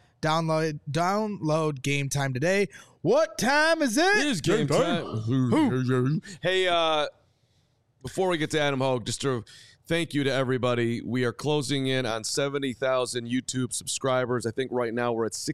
Download Game Time today. What time is it? It is game time. Hey, before we get to Adam Hogue, just to thank you to everybody. We are closing in on 70,000 YouTube subscribers. I think right now we're at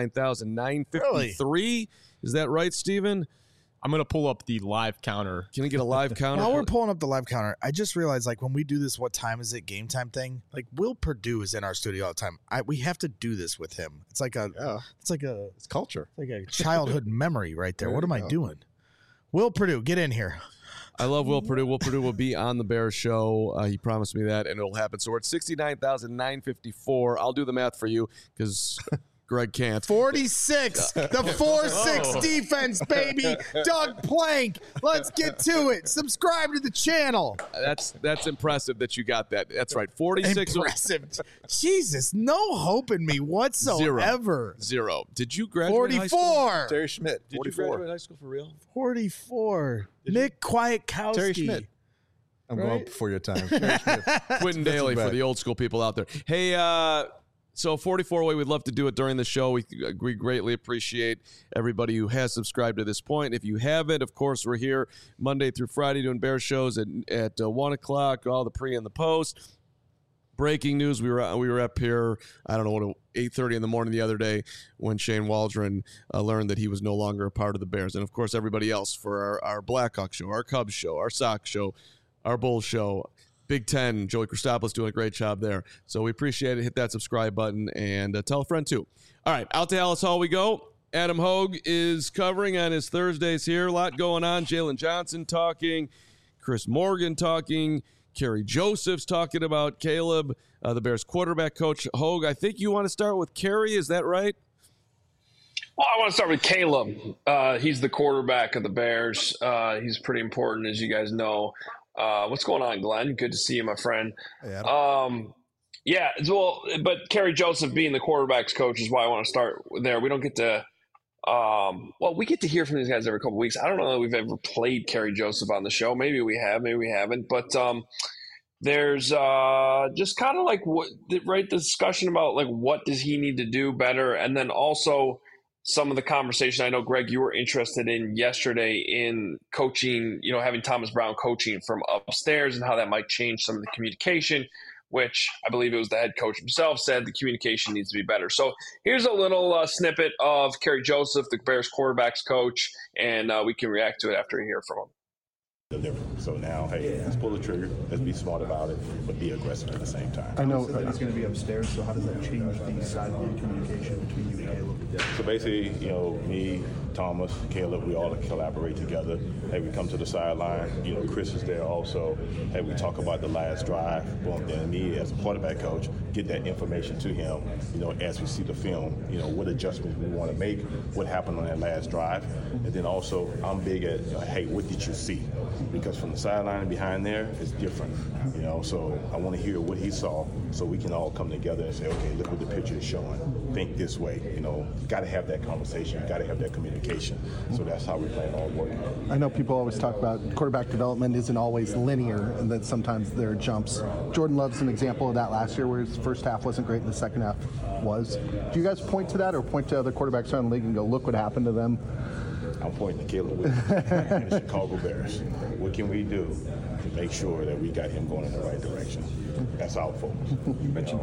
69,953. Really? Is that right, Steven? I'm going to pull up the live counter. Can we get a live counter? While we're pulling up the live counter, I just realized, like, when we do this what time is it Game Time thing, like, Will Perdue is in our studio all the time. We have to do this with him. It's like it's culture. It's like a childhood memory right there. What am I doing? Will Perdue, get in here. I love Will Perdue. Will Perdue will be on the Bears show. He promised me that, and it'll happen. So we're at 69,954. I'll do the math for you because Greg can't. 46. The 4-6 defense, baby. Doug Plank. Let's get to it. Subscribe to the channel. That's impressive that you got that. That's right. 46. Impressive. Jesus, no hope in me whatsoever. Zero. Did you graduate 44. high school? Terry Schmidt. Did 44. You graduate high school for real? 44. Nick Kwiatkowski. Terry Schmidt. I'm going before your time. Quentin Daly for the old school people out there. Hey, so 44 way, we'd love to do it during the show. We greatly appreciate everybody who has subscribed to this point. If you haven't, of course, we're here Monday through Friday doing Bear shows at 1 o'clock, all the pre and the post. breaking news. We were up here, I don't know what, 8:30 in the morning the other day when Shane Waldron learned that he was no longer a part of the Bears. And, of course, everybody else for our Blackhawks show, our Cubs show, our Sox show, our Bulls show, Big Ten, Joey Christopoulos doing a great job there. So we appreciate it. Hit that subscribe button and tell a friend too. All right, out to Alice Hall we go. Adam Hogue is covering on his Thursdays here. A lot going on. Jalen Johnson talking, Chris Morgan talking, Kerry Joseph's talking about Caleb, the Bears quarterback coach. Hogue, I think you want to start with Kerry. Is that right? Well, I want to start with Caleb. He's the quarterback of the Bears. He's pretty important, as you guys know. What's going on, Glenn? Good to see you, my friend. Hey, but Kerry Joseph being the quarterback's coach is why I want to start there. We don't get to we get to hear from these guys every couple of weeks. I don't know that we've ever played Kerry Joseph on the show. Maybe we have, maybe we haven't. But there's just kind of like the discussion about like what does he need to do better, and then also some of the conversation I know, Greg, you were interested in yesterday in coaching, having Thomas Brown coaching from upstairs and how that might change some of the communication, which I believe it was the head coach himself said the communication needs to be better. So here's a little snippet of Kerry Joseph, the Bears quarterback's coach, and we can react to it after we hear from him. So now, hey, let's pull the trigger. Let's be smart about it, but be aggressive at the same time. I know it's going to be upstairs, so how does that change the sideline communication between you and Caleb? So basically, me, Thomas, Caleb, we all collaborate together. Hey, we come to the sideline. Chris is there also. Hey, we talk about the last drive. Well, then me as a quarterback coach, get that information to him, as we see the film, what adjustments we want to make, what happened on that last drive. And then also, I'm big at, hey, what did you see? Because from the sideline behind there, it's different, so I want to hear what he saw so we can all come together and say, okay, look what the picture is showing. Think this way, got to have that conversation. You got to have that communication. So that's how we plan on working. I know people always talk about quarterback development isn't always linear and that sometimes there are jumps. Jordan Love's an example of that last year where his first half wasn't great and the second half was. Do you guys point to that or point to other quarterbacks around the league and go, look what happened to them? I'm pointing to Caleb and the Chicago Bears. What can we do to make sure that we got him going in the right direction? That's our focus. You mentioned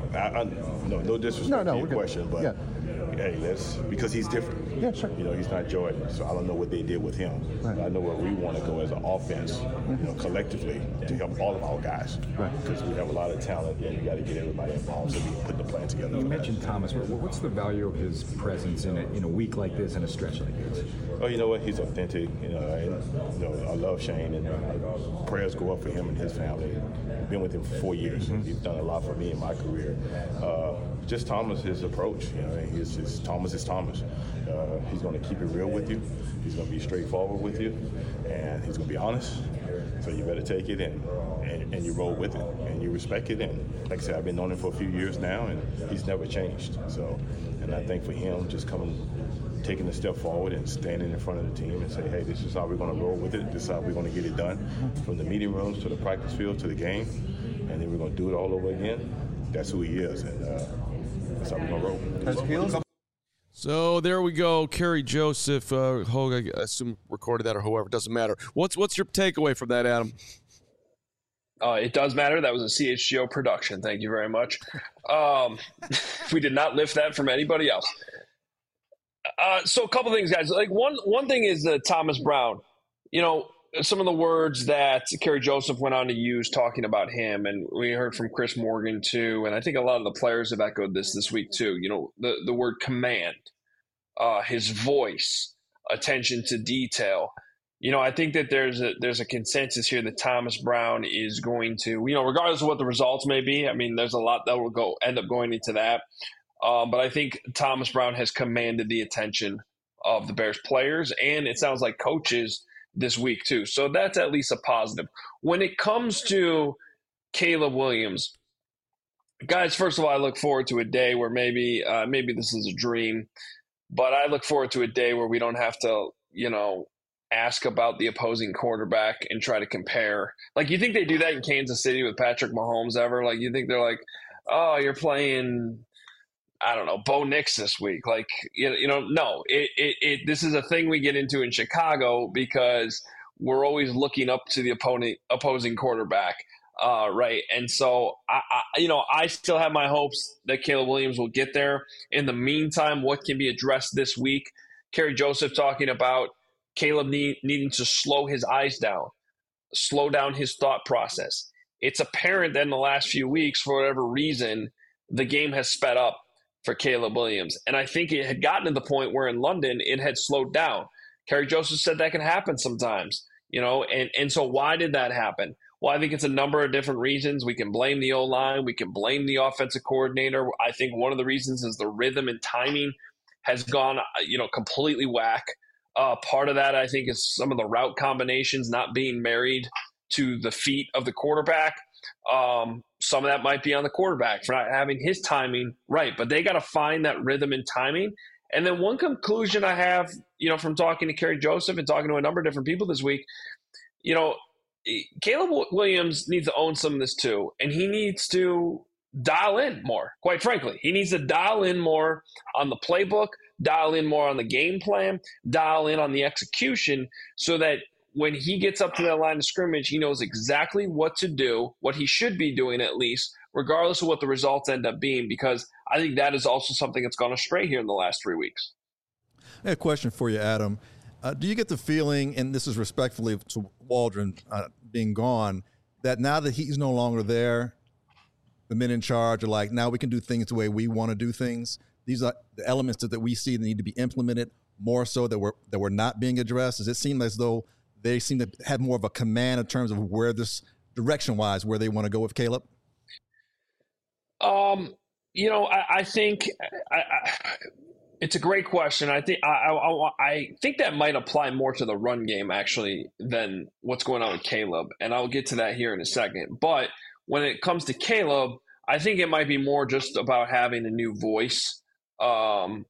no disrespect to your question, but hey, because he's different. Yeah, sure. He's not Jordan, so I don't know what they did with him. Right. But I know where we want to go as an offense, collectively to help all of our guys. Right. Because we have a lot of talent, and we got to get everybody involved so we can put the plan together. You mentioned Thomas. What's the value of his presence in a week like this and a stretch like this? Oh, you know what? He's authentic. I love Shane, and prayers go up for him and his family. I've been with him for 4 years. Mm-hmm. He's done a lot for me in my career. Just Thomas, his approach. Thomas is Thomas. He's going to keep it real with you. He's going to be straightforward with you, and he's going to be honest. So you better take it and you roll with it, and you respect it. And like I said, I've been knowing him for a few years now, and he's never changed. So, and I think for him, just taking a step forward and standing in front of the team and say, hey, this is how we're going to roll with it. This is how we're going to get it done, from the meeting rooms to the practice field to the game, and then we're going to do it all over again. That's who he is, and that's how we're going to roll. So there we go. Kerry Joseph, Hogue, I assume recorded that or whoever, doesn't matter. What's your takeaway from that, Adam? It does matter. That was a CHGO production. Thank you very much. We did not lift that from anybody else. So a couple things, guys. Like one thing is Thomas Brown. Some of the words that Kerry Joseph went on to use talking about him, and we heard from Chris Morgan too, and I think a lot of the players have echoed this week too. The word command, his voice, attention to detail. I think that there's a consensus here that Thomas Brown is going to, regardless of what the results may be. I mean, there's a lot that will end up going into that. But I think Thomas Brown has commanded the attention of the Bears players, and it sounds like coaches this week too. So that's at least a positive. When it comes to Caleb Williams, guys, first of all, I look forward to a day where maybe this is a dream, but I look forward to a day where we don't have to, ask about the opposing quarterback and try to compare. Like, you think they do that in Kansas City with Patrick Mahomes ever? Like, you think they're like, oh, you're playing, I don't know, Bo Nix this week. Like, no, this is a thing we get into in Chicago because we're always looking up to the opposing quarterback. right. And so I still have my hopes that Caleb Williams will get there. In the meantime, what can be addressed this week? Kerry Joseph talking about Caleb needing to slow his eyes down, slow down his thought process. It's apparent that in the last few weeks, for whatever reason, the game has sped up for Caleb Williams. And I think it had gotten to the point where in London it had slowed down. Kerry Joseph said that can happen sometimes, and so why did that happen? Well, I think it's a number of different reasons. We can blame the O-line. We can blame the offensive coordinator. I think one of the reasons is the rhythm and timing has gone, completely whack. Part of that, I think, is some of the route combinations not being married to the feet of the quarterback. Some of that might be on the quarterback for not having his timing right, but they got to find that rhythm and timing. And then one conclusion I have, from talking to Kerry Joseph and talking to a number of different people this week, Caleb Williams needs to own some of this too, and he needs to dial in more, quite frankly. He needs to dial in more on the playbook, dial in more on the game plan, dial in on the execution so that when he gets up to that line of scrimmage, he knows exactly what to do, what he should be doing at least, regardless of what the results end up being, because I think that is also something that's gone astray here in the last 3 weeks. I have a question for you, Adam. Do you get the feeling, and this is respectfully to Waldron being gone, that now that he's no longer there, the men in charge are like, now we can do things the way we want to do things? These are the elements that we see that need to be implemented more so that we're not being addressed. Does it seem as though they seem to have more of a command in terms of where this direction-wise, where they want to go with Caleb? I think it's a great question. I think that might apply more to the run game actually than what's going on with Caleb, and I'll get to that here in a second. But when it comes to Caleb, I think it might be more just about having a new voice, and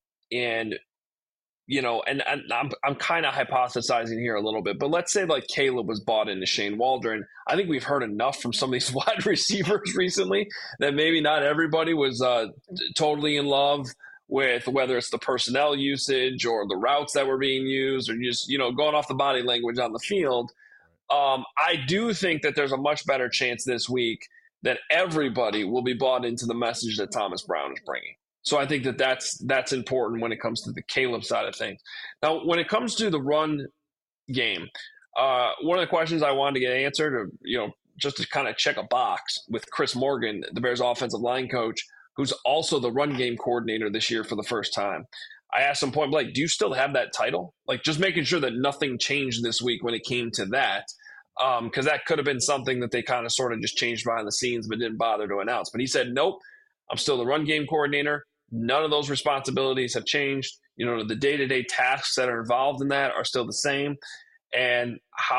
I'm kind of hypothesizing here a little bit, but let's say like Caleb was bought into Shane Waldron. I think we've heard enough from some of these wide receivers recently that maybe not everybody was totally in love with whether it's the personnel usage or the routes that were being used or just, going off the body language on the field. I do think that there's a much better chance this week that everybody will be bought into the message that Thomas Brown is bringing. So I think that's important when it comes to the Caleb side of things. Now, when it comes to the run game, one of the questions I wanted to get answered, or, just to kind of check a box with Chris Morgan, the Bears offensive line coach, who's also the run game coordinator this year for the first time. I asked him point blank, do you still have that title? Like, just making sure that nothing changed this week when it came to that, because that could have been something that they kind of sort of just changed behind the scenes but didn't bother to announce. But he said, nope, I'm still the run game coordinator. None of those responsibilities have changed. The day-to-day tasks that are involved in that are still the same. And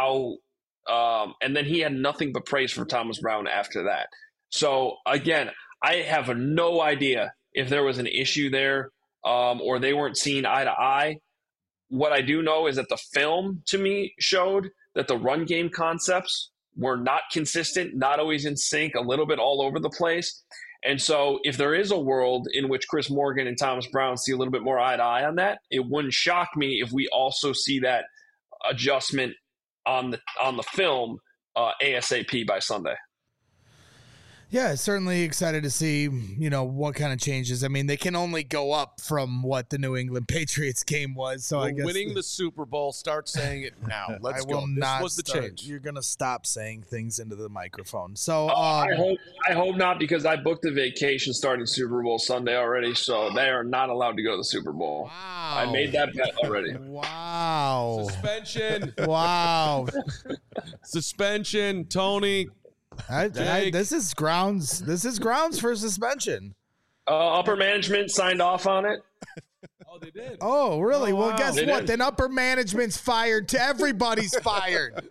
and then he had nothing but praise for Thomas Brown after that. So again, I have no idea if there was an issue there or they weren't seeing eye to eye. What I do know is that the film to me showed that the run game concepts were not consistent, not always in sync, a little bit all over the place. And so if there is a world in which Chris Morgan and Thomas Brown see a little bit more eye to eye on that, it wouldn't shock me if we also see that adjustment on the film ASAP by Sunday. Yeah, certainly excited to see, what kind of changes. I mean, they can only go up from what the New England Patriots game was. So I guess winning the Super Bowl, start saying it now. Let's go. This was the change. You're going to stop saying things into the microphone. So I hope not, because I booked a vacation starting Super Bowl Sunday already, so they are not allowed to go to the Super Bowl. Wow. I made that bet already. Wow. Suspension. Wow. Suspension, Tony. This is grounds for suspension. Upper management signed off on it. Oh, they did. Oh, really? Oh, well, wow. guess They what? did. Then upper management's fired. To everybody's fired.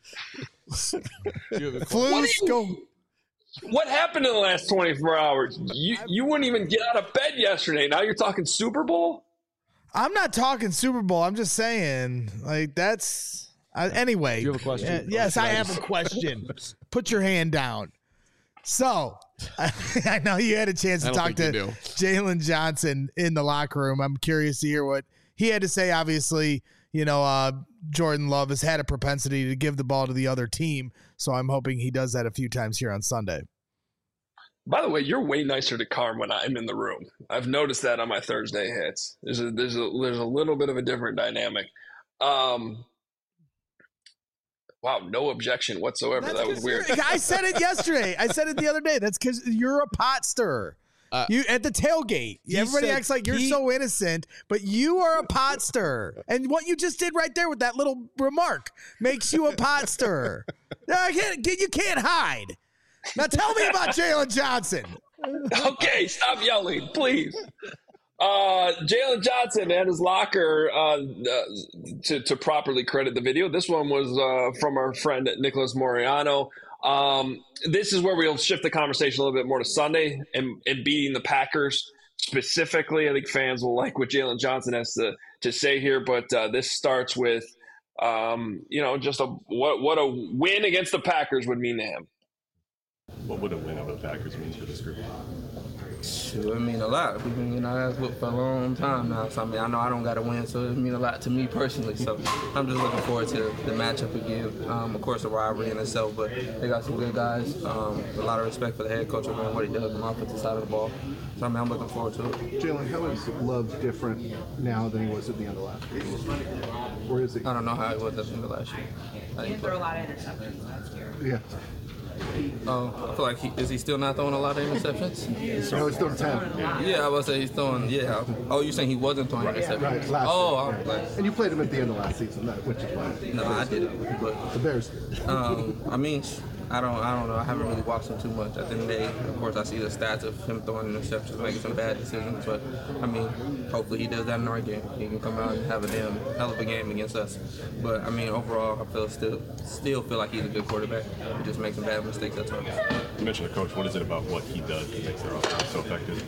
What happened in the last 24 hours? You wouldn't even get out of bed yesterday. Now you're talking Super Bowl? I'm not talking Super Bowl. I'm just saying, like, that's anyway. Do you have a question? Yes, I have a question. Put your hand down. So, I know you had a chance to talk to Jalen Johnson in the locker room. I'm curious to hear what he had to say. Obviously, Jordan Love has had a propensity to give the ball to the other team. So I'm hoping he does that a few times here on Sunday. By the way, you're way nicer to Carm when I'm in the room. I've noticed that on my Thursday hits. There's a little bit of a different dynamic. Wow, no objection whatsoever. That was weird. I said it yesterday. I said it the other day. That's because you're a pot stirrer. You at the tailgate. Everybody acts like you're so innocent, but you are a pot stirrer. And what you just did right there with that little remark makes you a pot stirrer. You can't hide. Now tell me about Jalen Johnson. Okay, stop yelling, please. Jalen Johnson at his locker, to properly credit the video. This one was from our friend Nicholas Moriano. This is where we'll shift the conversation a little bit more to Sunday and beating the Packers specifically. I think fans will like what Jalen Johnson has to say here, but this starts with just what a win against the Packers would mean to him. What would a win over the Packers mean for this group? It would mean a lot. We've been ass whooped for a long time now. So, I know I don't got to win, so it mean a lot to me personally. So, I'm just looking forward to the matchup again. Of course, a rivalry in itself, but they got some good guys. A lot of respect for the head coach and what he does on the offensive side of the ball. So, I'm looking forward to it. Jalen, how is Love different now than he was at the end of last year? Or is he? I don't know how he was at the end of last year. He threw a lot of interceptions last year. Yeah. I feel like is he still not throwing a lot of interceptions? No, he's throwing 10. Yeah, I was say he's throwing. Yeah. Oh, you're saying he wasn't throwing interceptions? Right. Last year. Right. And you played him at the end of last season, which is why. No, I didn't. But the Bears. I don't know. I haven't really watched him too much. At the end of the day, of course, I see the stats of him throwing interceptions, making some bad decisions. But hopefully he does that in our game. He can come out and have a damn hell of a game against us. But overall, I still feel like he's a good quarterback. He just makes some bad mistakes at times. You mentioned the coach. What is it about what he does that makes their offense so effective?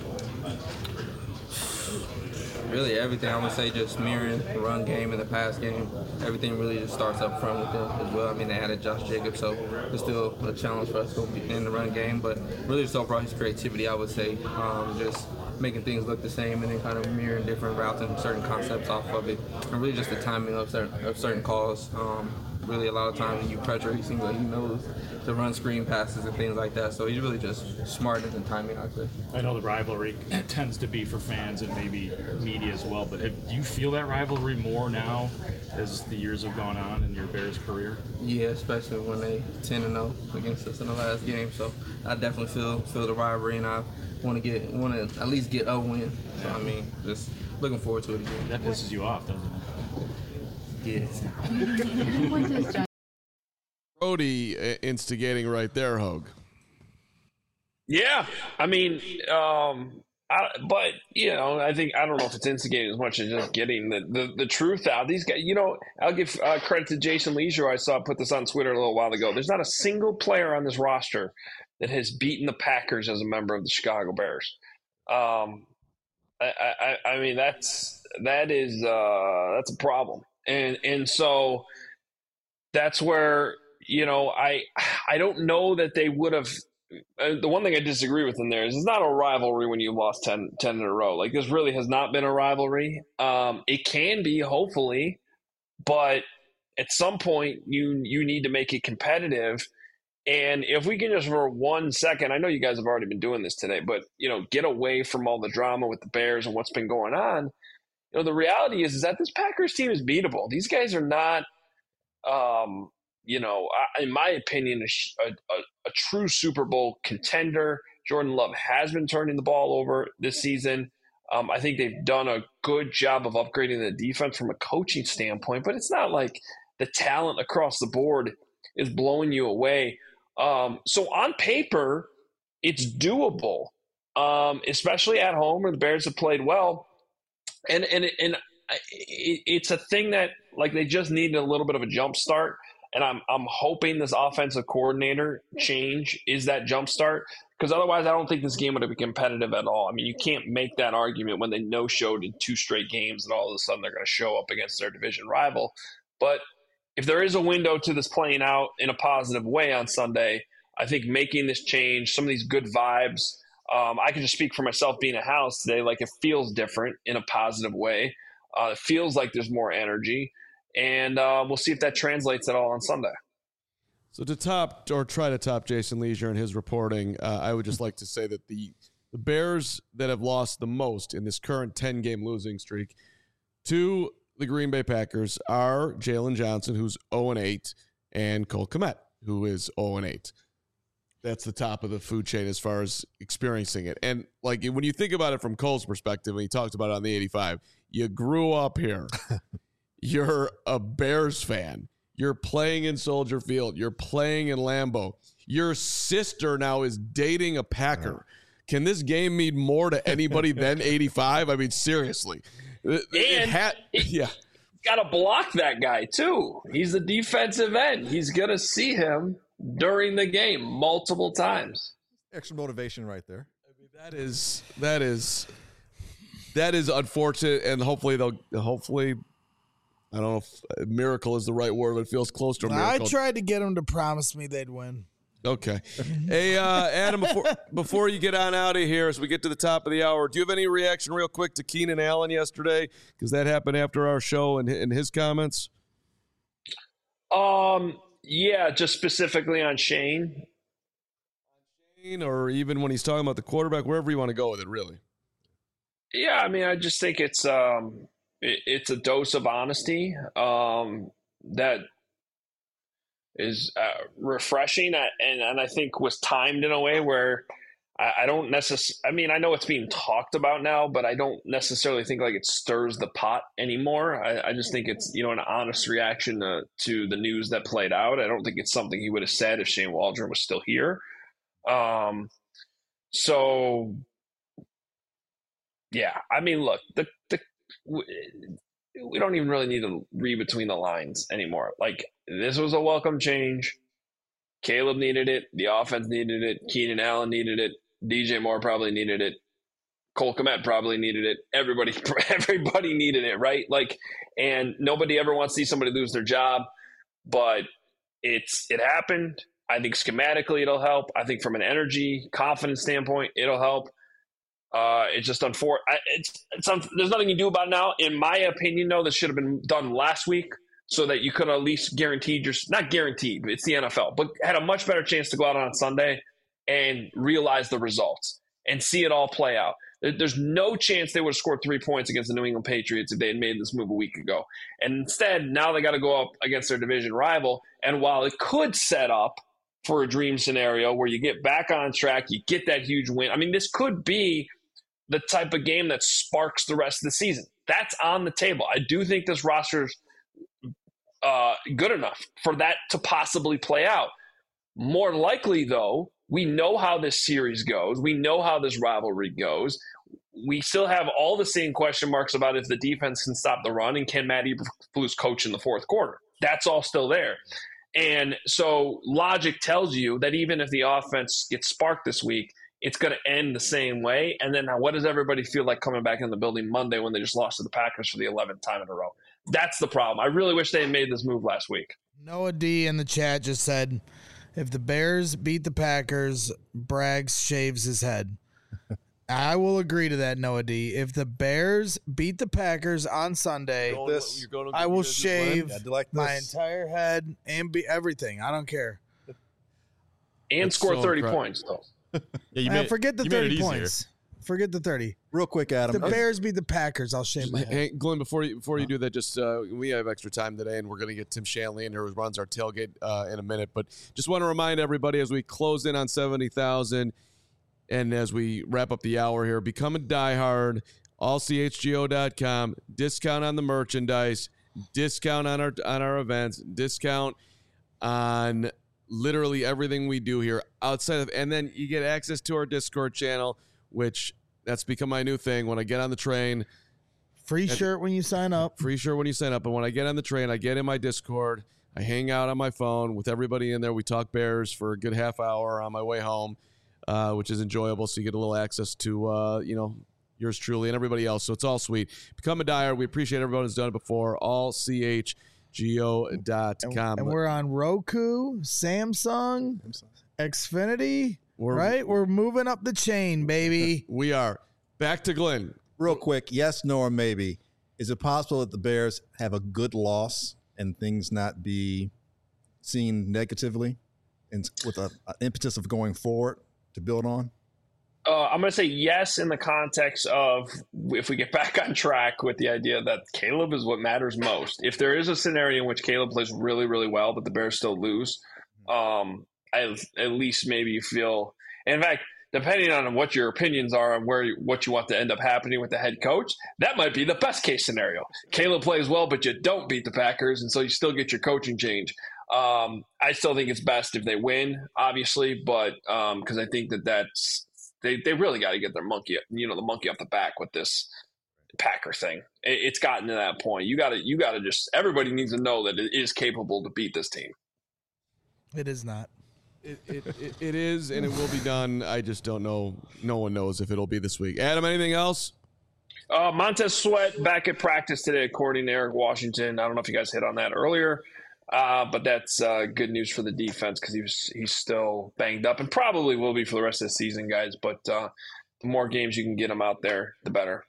Really everything. I would say just mirroring the run game and the pass game. Everything really just starts up front with them as well. They added Josh Jacobs, so it's still a challenge for us to be in the run game. But really just overall his creativity, I would say, just making things look the same and then kind of mirroring different routes and certain concepts off of it. And really just the timing of certain calls. Really a lot of times when you pressure, he seems like he knows to run screen passes and things like that. So he's really just smarter than timing, I'd say. I know the rivalry tends to be for fans and maybe media as well, but do you feel that rivalry more now as the years have gone on in your Bears career? Yeah, especially when they 10-0 against us in the last game. So I definitely feel the rivalry, and I want to at least get a win. So just looking forward to it again. That pisses you off, doesn't it? Yes. Brody instigating right there, Hogue. Yeah, I think I don't know if it's instigating as much as just getting the truth out. These guys, I'll give credit to Jason Leisure. I saw put this on Twitter a little while ago. There's not a single player on this roster that has beaten the Packers as a member of the Chicago Bears. That's a problem. And so that's where, I don't know that they would have. The one thing I disagree with in there is it's not a rivalry when you lost 10 in a row. Like, this really has not been a rivalry. It can be, hopefully, but at some point you need to make it competitive. And if we can just for 1 second, I know you guys have already been doing this today, but, get away from all the drama with the Bears and what's been going on. The reality is that this Packers team is beatable. These guys are not, in my opinion, a true Super Bowl contender. Jordan Love has been turning the ball over this season. I think they've done a good job of upgrading the defense from a coaching standpoint, but it's not like the talent across the board is blowing you away. So on paper, it's doable, especially at home where the Bears have played well. And it's a thing that, like, they just need a little bit of a jump start. And I'm hoping this offensive coordinator change is that jump start, because otherwise I don't think this game would be competitive at all. You can't make that argument when they no-showed in 2 straight games and all of a sudden they're going to show up against their division rival. But if there is a window to this playing out in a positive way on Sunday, I think making this change, some of these good vibes, I can just speak for myself being a house today. Like, it feels different in a positive way. It feels like there's more energy. And we'll see if that translates at all on Sunday. So to try to top Jason Leisure and his reporting, I would just like to say that the Bears that have lost the most in this current 10-game losing streak to the Green Bay Packers are Jalen Johnson, who's 0-8, and Cole Kmet, who is 0-8. That's the top of the food chain as far as experiencing it. And like when you think about it from Cole's perspective, and he talked about it on the 85, you grew up here. You're a Bears fan. You're playing in Soldier Field. You're playing in Lambeau. Your sister now is dating a Packer. Can this game mean more to anybody than 85? I mean, seriously. Got to block that guy, too. He's a defensive end. He's going to see him during the game multiple times. Extra motivation right there. I mean, that is unfortunate, and hopefully I don't know if miracle is the right word, but it feels close to a miracle. I tried to get them to promise me they'd win. Okay. Hey, Adam, before you get on out of here, as we get to the top of the hour, do you have any reaction real quick to Keenan Allen yesterday? Because that happened after our show and his comments. Yeah, just specifically on Shane. Or even when he's talking about the quarterback, wherever you want to go with it, really. Yeah, I mean, I just think it's a dose of honesty that is refreshing and I think was timed in a way where I don't necessarily – I mean, I know it's being talked about now, but I don't necessarily think like it stirs the pot anymore. I just think it's, an honest reaction to the news that played out. I don't think it's something he would have said if Shane Waldron was still here. So, yeah, I mean, look, we don't even really need to read between the lines anymore. Like, this was a welcome change. Caleb needed it. The offense needed it. Keenan Allen needed it. DJ Moore probably needed it. Cole Kmet probably needed it. Everybody needed it, right? Like, and nobody ever wants to see somebody lose their job, but it happened. I think schematically it'll help. I think from an energy, confidence standpoint, it'll help. It's just unfortunate. There's nothing you can do about it now. In my opinion, though, this should have been done last week so that you could at least not guaranteed, but it's the NFL, but had a much better chance to go out on Sunday and realize the results and see it all play out. There's no chance they would have scored 3 points against the New England Patriots if they had made this move a week ago. And instead, now they got to go up against their division rival. And while it could set up for a dream scenario where you get back on track, you get that huge win. I mean, this could be the type of game that sparks the rest of the season. That's on the table. I do think this roster's good enough for that to possibly play out. More likely, though, we know how this series goes. We know how this rivalry goes. We still have all the same question marks about if the defense can stop the run and can Matt Eberflus coach in the fourth quarter. That's all still there. And so logic tells you that even if the offense gets sparked this week, it's going to end the same way. And then what does everybody feel like coming back in the building Monday when they just lost to the Packers for the 11th time in a row? That's the problem. I really wish they had made this move last week. Noah D in the chat just said, if the Bears beat the Packers, Braggs shaves his head. I will agree to that, Noah D. If the Bears beat the Packers on Sunday, I will shave my entire head and everything. I don't care. And score 30 points, though. Yeah, forget the 30 points. Forget the 30. Real quick, Adam. If the Bears beat the Packers, I'll shave my head. Hey, Glenn, before you do that, just we have extra time today, and we're going to get Tim Shanley in here, who runs our tailgate in a minute. But just want to remind everybody as we close in on 70,000 and as we wrap up the hour here, become a diehard, allchgo.com, discount on the merchandise, discount on our events, discount on literally everything we do here outside of, and then you get access to our Discord channel, which that's become my new thing. When I get on the train, free shirt when you sign up. Free shirt when you sign up. And when I get on the train, I get in my Discord. I hang out on my phone with everybody in there. We talk Bears for a good half hour on my way home, which is enjoyable. So you get a little access to, yours truly and everybody else. So it's all sweet. Become a diehard. We appreciate everyone who's done it before. allchgo.com. And we're on Roku, Samsung, Xfinity. We're moving up the chain, baby. We are. Back to Glenn. Real quick, yes, no, or maybe. Is it possible that the Bears have a good loss and things not be seen negatively and with an impetus of going forward to build on? I'm going to say yes in the context of if we get back on track with the idea that Caleb is what matters most. If there is a scenario in which Caleb plays really, really well, but the Bears still lose, at least maybe you feel – in fact, depending on what your opinions are on what you want to end up happening with the head coach, that might be the best case scenario. Caleb plays well, but you don't beat the Packers, and so you still get your coaching change. I still think it's best if they win, obviously, but because I think that's – They really got to get their monkey off the back with this Packer thing. It's gotten to that point. You got to just everybody needs to know that it is capable to beat this team. It is not. It is, and it will be done. I just don't know. No one knows if it'll be this week. Adam, anything else? Montez Sweat back at practice today, according to Eric Washington. I don't know if you guys hit on that earlier. But that's good news for the defense because he's still banged up and probably will be for the rest of the season, guys. But the more games you can get him out there, the better.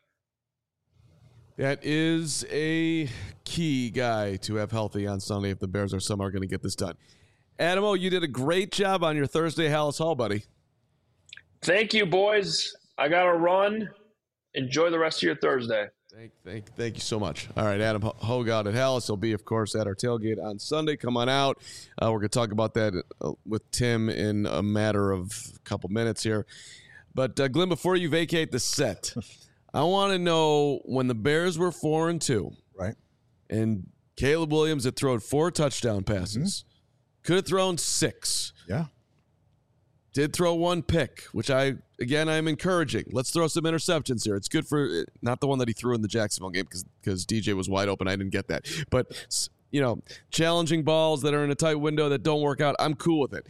That is a key guy to have healthy on Sunday if the Bears are somehow going to get this done. Adamo, you did a great job on your Thursday Hallis Hall, buddy. Thank you, boys. I got to run. Enjoy the rest of your Thursday. Thank you so much. All right, Adam Hoggard at Hallis. He'll be, of course, at our tailgate on Sunday. Come on out. We're going to talk about that with Tim in a matter of a couple minutes here. But, Glenn, before you vacate the set, I want to know when the Bears were 4-2. Right. And Caleb Williams had thrown 4 touchdown passes. Could have thrown 6. Yeah. Did throw 1 pick, which I'm encouraging. Let's throw some interceptions here. It's good for not the one that he threw in the Jacksonville game because DJ was wide open. I didn't get that. But, challenging balls that are in a tight window that don't work out, I'm cool with it.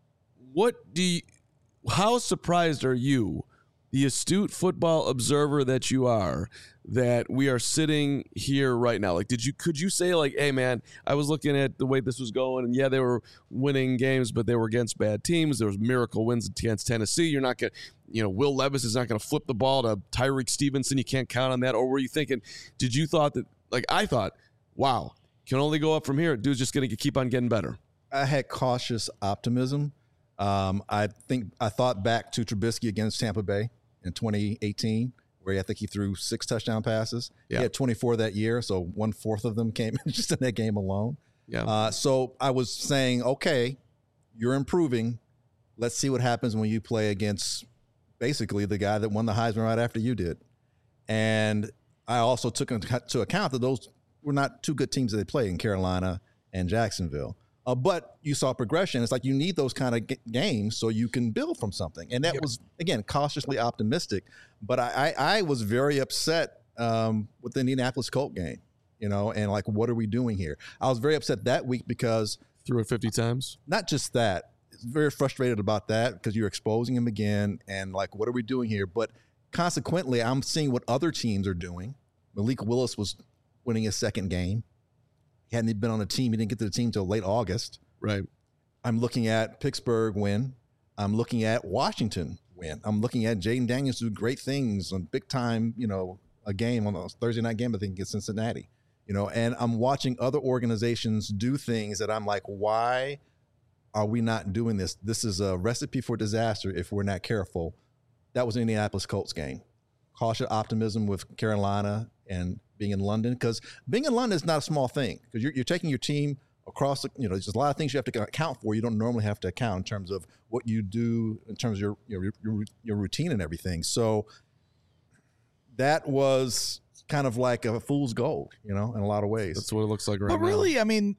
How surprised are you, the astute football observer that you are, that we are sitting here right now? Like, could you say, like, hey, man, I was looking at the way this was going, and yeah, they were winning games, but they were against bad teams. There was miracle wins against Tennessee. You're not going to, Will Levis is not going to flip the ball to Tyreek Stevenson. You can't count on that. Or were you thinking, I thought, wow, can only go up from here. Dude's just going to keep on getting better. I had cautious optimism. I thought back to Trubisky against Tampa Bay in 2018. Where I think he threw 6 touchdown passes. Yeah. He had 24 that year, so 1/4 of them came just in that game alone. Yeah. So I was saying, okay, you're improving. Let's see what happens when you play against basically the guy that won the Heisman right after you did. And I also took into account that those were not 2 good teams that they played in Carolina and Jacksonville. But you saw progression. It's like you need those kind of games so you can build from something. And that was, again, cautiously optimistic. But I was very upset with the Indianapolis Colts game, and like, what are we doing here? I was very upset that week because – threw it 50 times? Not just that. Very frustrated about that because you're exposing him again and like, what are we doing here? But consequently, I'm seeing what other teams are doing. Malik Willis was winning his 2nd game. He hadn't been on the team. He didn't get to the team until late August. Right. I'm looking at Pittsburgh win. I'm looking at Washington win. I'm looking at Jaden Daniels do great things on big time, a game on a Thursday night game, I think, against Cincinnati. And I'm watching other organizations do things that I'm like, why are we not doing this? This is a recipe for disaster if we're not careful. That was the Indianapolis Colts game. Cautious optimism with Carolina and being in London, because being in London is not a small thing, because you're taking your team across, there's a lot of things you have to account for. You don't normally have to account in terms of what you do, in terms of your routine and everything. So that was kind of like a fool's gold, in a lot of ways. That's what it looks like right now. But really, I mean,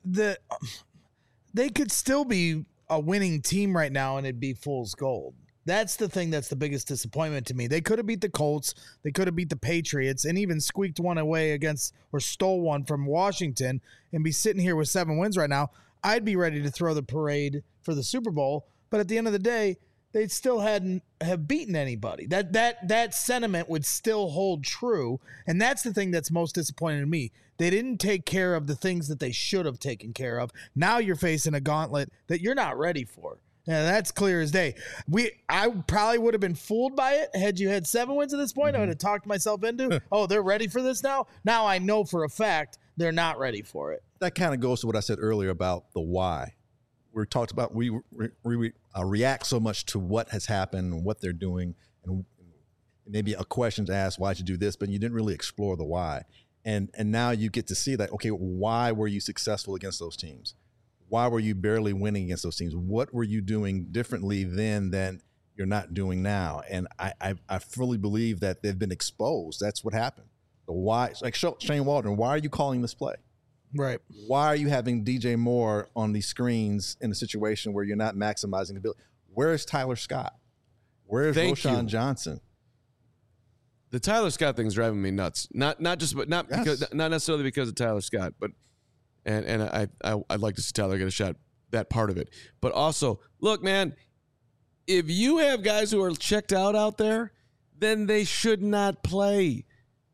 they could still be a winning team right now and it'd be fool's gold. That's the thing that's the biggest disappointment to me. They could have beat the Colts. They could have beat the Patriots and even squeaked one away or stole one from Washington and be sitting here with 7 wins right now. I'd be ready to throw the parade for the Super Bowl. But at the end of the day, they still hadn't have beaten anybody. That sentiment would still hold true. And that's the thing that's most disappointing to me. They didn't take care of the things that they should have taken care of. Now you're facing a gauntlet that you're not ready for. Yeah, that's clear as day. I probably would have been fooled by it had you had 7 wins at this point. I would have talked myself into, they're ready for this now. Now I know for a fact they're not ready for it. that kind of goes to what I said earlier about the why. We talked about we react so much to what has happened and what they're doing, and maybe a question's asked, why'd you do this? But you didn't really explore the why. And now you get to see that, okay, why were you successful against those teams? Why were you barely winning against those teams? What were you doing differently then than you're not doing now? And I fully believe that they've been exposed. That's what happened. The why, like Shane Waldron, why are you calling this play? Right. Why are you having DJ Moore on these screens in a situation where you're not maximizing the ability? Where is Tyler Scott? Where is Roshan Johnson? The Tyler Scott thing's driving me nuts. Not necessarily because of Tyler Scott, but and I'd like to see Tyler get a shot, that part of it. But also, look, man, if you have guys who are checked out there, then they should not play.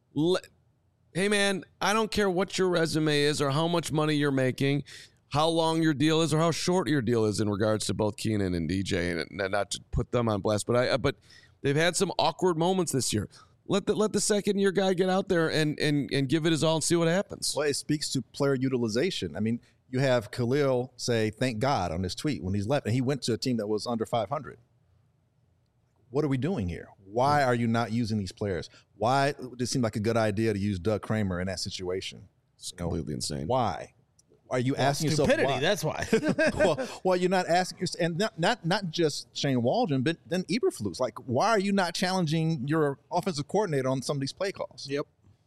Hey, man, I don't care what your resume is or how much money you're making, how long your deal is or how short your deal is in regards to both Keenan and DJ, and not to put them on blast, but they've had some awkward moments this year. Let the second-year guy get out there and give it his all and see what happens. Well, it speaks to player utilization. I mean, you have Khalil say, thank God, on his tweet when he's left, and he went to a team that was under 500. What are we doing here? Why are you not using these players? Why did it seem like a good idea to use Doug Kramer in that situation? It's completely insane. Why? Are you asking yourself stupidity? Why? That's why. well, you're not asking yourself, and not just Shane Waldron, but then Eberflus. Like, why are you not challenging your offensive coordinator on some of these play calls? Yep.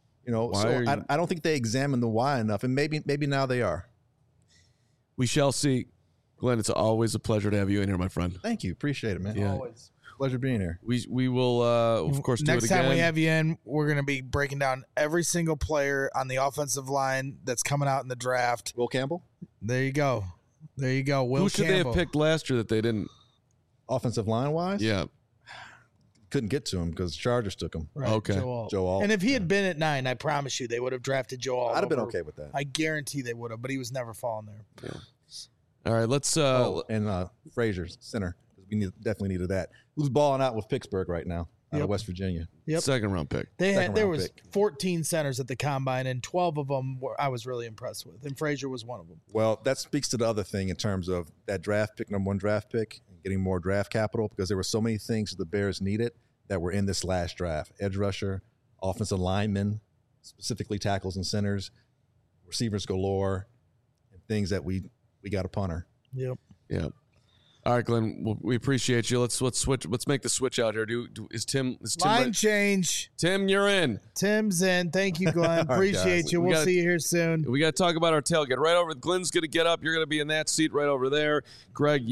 I don't think they examine the why enough, and maybe now they are. We shall see. Glenn, it's always a pleasure to have you in here, my friend. Thank you. Appreciate it, man. Yeah. Always. Pleasure being here. We will, of course, do it again. Next time we have you in, we're going to be breaking down every single player on the offensive line that's coming out in the draft. Will Campbell? There you go. Will Who should Campbell. they have picked last year that they didn't? Offensive line-wise? Yeah. Couldn't get to him because the Chargers took him. Right, Okay. Joe Alt. And if he had been at 9, I promise you they would have drafted Joe Alt. I'd have been okay with that. I guarantee they would have, but he was never falling there. Yeah. All right, let's and Frazier, center. We definitely needed that. Who's balling out with Pittsburgh right now out of West Virginia? Yep. Second round pick. There was 14 centers at the combine, and 12 of them I was really impressed with, and Frazier was one of them. Well, that speaks to the other thing in terms of that draft pick, number 1 draft pick, and getting more draft capital, because there were so many things the Bears needed that were in this last draft. Edge rusher, offensive linemen, specifically tackles and centers, receivers galore, and things that we got a punter. Yep. Yeah. All right, Glenn. We appreciate you. Let's switch. Let's make the switch out here. Is Tim line change? Tim, you're in. Tim's in. Thank you, Glenn. Appreciate you. We'll see you here soon. We got to talk about our tailgate. Right over. Glenn's going to get up. You're going to be in that seat right over there. Greg,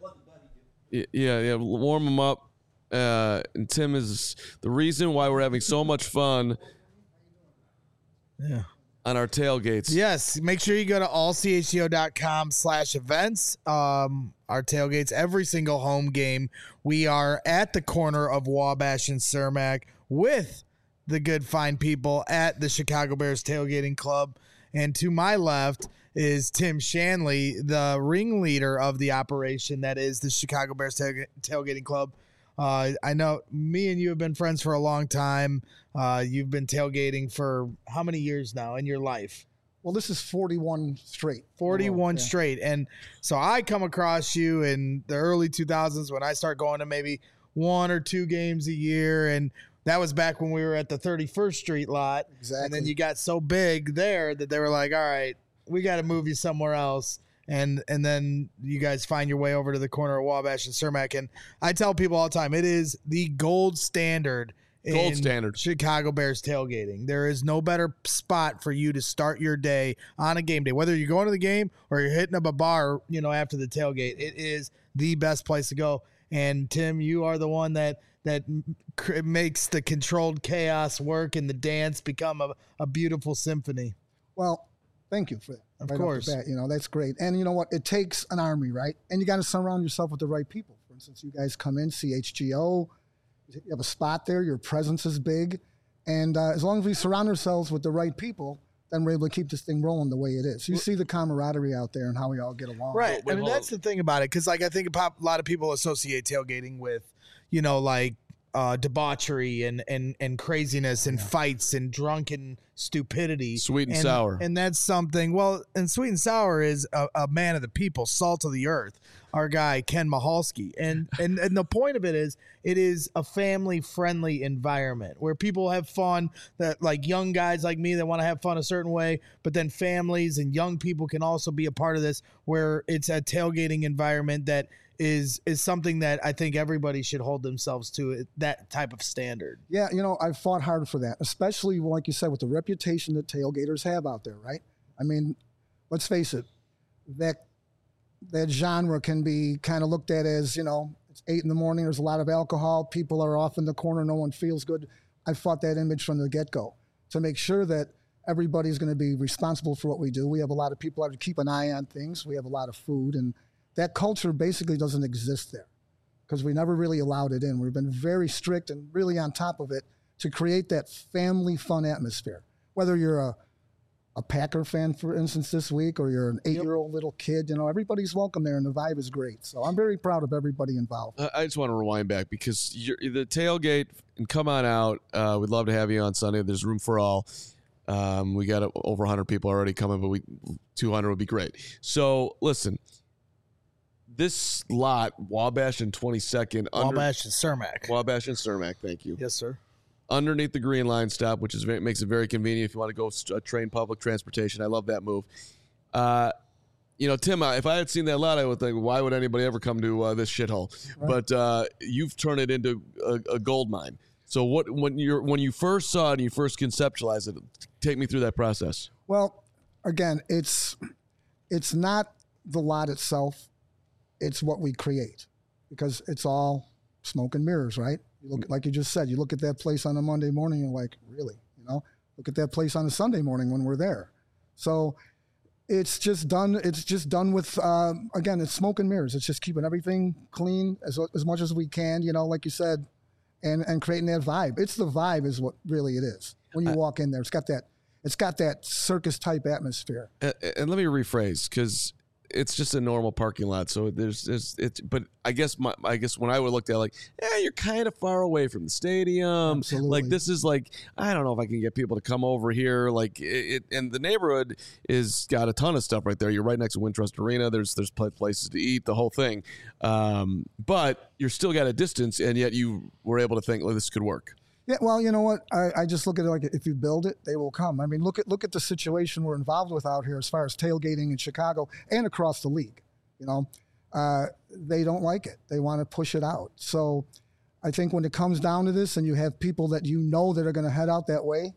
warm him up. And Tim is the reason why we're having so much fun. Yeah. On our tailgates. Yes. Make sure you go to allchgo.com/events. Our tailgates, every single home game. We are at the corner of Wabash and Cermak with the good, fine people at the Chicago Bears Tailgating Club. And to my left is Tim Shanley, the ringleader of the operation that is the Chicago Bears Tailgating Club. I know me and you have been friends for a long time. You've been tailgating for how many years now in your life? Well, this is 41 straight. 41 straight. And so I come across you in the early 2000s when I start going to maybe 1 or 2 games a year. And that was back when we were at the 31st Street lot. Exactly. And then you got so big there that they were like, all right, we got to move you somewhere else. And then you guys find your way over to the corner of Wabash and Cermak. And I tell people all the time, it is the gold standard in Chicago Bears tailgating. There is no better spot for you to start your day on a game day. Whether you're going to the game or you're hitting up a bar, after the tailgate, it is the best place to go. And Tim, you are the one that makes the controlled chaos work and the dance become a beautiful symphony. Well, thank you for that. Of course. That's great. And you know what? It takes an army, right? And you got to surround yourself with the right people. For instance, you guys come in, CHGO, you have a spot there, your presence is big. And as long as we surround ourselves with the right people, then we're able to keep this thing rolling the way it is. You see the camaraderie out there and how we all get along. Right. That's the thing about it. Because, I think a lot of people associate tailgating with, debauchery and craziness and fights and drunken stupidity. Sweet and sour. And that's something, well, and Sweet and Sour is a man of the people, salt of the earth, our guy, Ken Mahalski. And the point of it is a family-friendly environment where people have fun, that like young guys like me that want to have fun a certain way, but then families and young people can also be a part of this, where it's a tailgating environment that is something that I think everybody should hold themselves to, that type of standard. Yeah, I've fought hard for that, especially, like you said, with the reputation that tailgaters have out there, right? I mean, let's face it, that genre can be kind of looked at as, it's 8 a.m, there's a lot of alcohol, people are off in the corner, no one feels good. I fought that image from the get-go to make sure that everybody's going to be responsible for what we do. We have a lot of people out to keep an eye on things. We have a lot of food, and that culture basically doesn't exist there because we never really allowed it in. We've been very strict and really on top of it to create that family fun atmosphere. Whether you're a Packer fan, for instance, this week, or you're an 8-year-old little kid, everybody's welcome there, and the vibe is great. So I'm very proud of everybody involved. I just want to rewind back because the tailgate, and come on out. We'd love to have you on Sunday. There's room for all. We got over 100 people already coming, but 200 would be great. So listen, this lot, Wabash and 22nd. Wabash and Cermak. Wabash and Cermak, thank you. Yes, sir. Underneath the Green Line stop, which makes it very convenient if you want to go train public transportation. I love that move. Tim, if I had seen that lot, I would think, why would anybody ever come to this shithole? Right. But you've turned it into a gold mine. So when you first saw it and you first conceptualized it, take me through that process. Well, again, it's not the lot itself. It's what we create, because it's all smoke and mirrors, right? You look, like you just said, you look at that place on a Monday morning, you're like, really? Look at that place on a Sunday morning when we're there. So it's just done. It's just done with, again, it's smoke and mirrors. It's just keeping everything clean as much as we can, like you said, and creating that vibe. It's the vibe is what really it is. When you walk in there, it's got that circus type atmosphere. And let me rephrase, because it's just a normal parking lot. So but I guess when I would look at it, like, you're kind of far away from the stadium. Absolutely. Like, this is like, I don't know if I can get people to come over here. Like and the neighborhood is got a ton of stuff right there. You're right next to Wintrust Arena. There's places to eat, the whole thing. But you're still got a distance, and yet you were able to think, well, this could work. Yeah, well, you know what? I just look at it like, if you build it, they will come. I mean, look at the situation we're involved with out here as far as tailgating in Chicago and across the league. They don't like it. They want to push it out. So I think when it comes down to this and you have people that that are going to head out that way,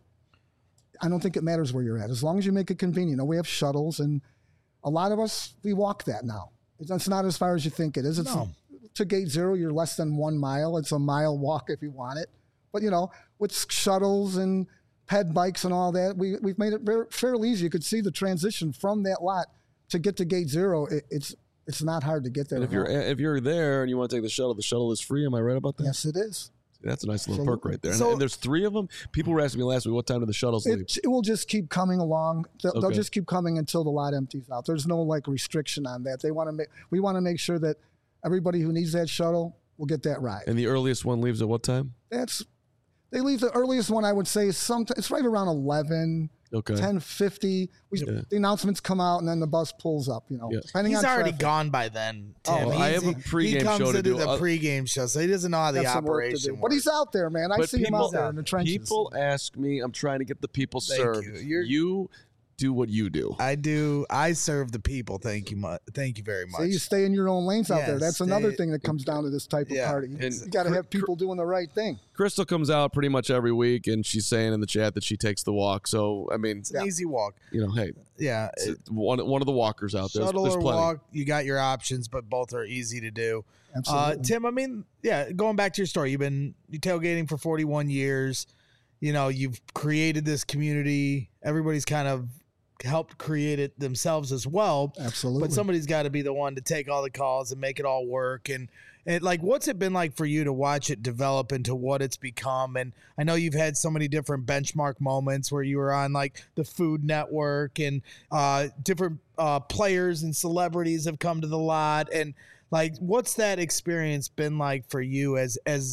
I don't think it matters where you're at. As long as you make it convenient. We have shuttles, and a lot of us, we walk that now. It's not as far as you think it is. To Gate Zero, you're less than 1 mile. It's a mile walk if you want it. But, with shuttles and ped bikes and all that, we've made it fairly easy. You could see the transition from that lot to get to Gate Zero. It's not hard to get there. And if you're there and you want to take the shuttle is free. Am I right about that? Yes, it is. That's a nice little perk right there. And there's 3 of them. People were asking me last week, what time do the shuttles leave? It will just keep coming along. They'll just keep coming until the lot empties out. There's no restriction on that. We want to make sure that everybody who needs that shuttle will get that ride. And the earliest one leaves at what time? They leave the earliest one, I would say, it's right around 11, 10:50. The announcements come out, and then the bus pulls up, depending He's on already traffic. gone by then, Tim. I have a pregame show to do. He comes into the pregame show, so he doesn't know how the operation works. But he's out there, man. I see him out there in the trenches. People ask me, I'm trying to get the people served. You do what you do. I do. I serve the people. Thank you very much. So you stay in your own lanes out there. That's another thing that comes down to this type of party. And you got to have people doing the right thing. Crystal comes out pretty much every week, and she's saying in the chat that she takes the walk. So, I mean, it's an easy walk. Hey, yeah, one of the walkers out there. Shuttle There's or plenty. walk, you got your options, but both are easy to do. Absolutely. Tim, I mean, going back to your story, you've been tailgating for 41 years. You've created this community. Everybody's kind of helped create it themselves as well. Absolutely. But somebody's got to be the one to take all the calls and make it all work. And like, what's it been like for you to watch it develop into what it's become? And I know you've had so many different benchmark moments where you were on like the Food Network, and different players and celebrities have come to the lot. And like, what's that experience been like for you as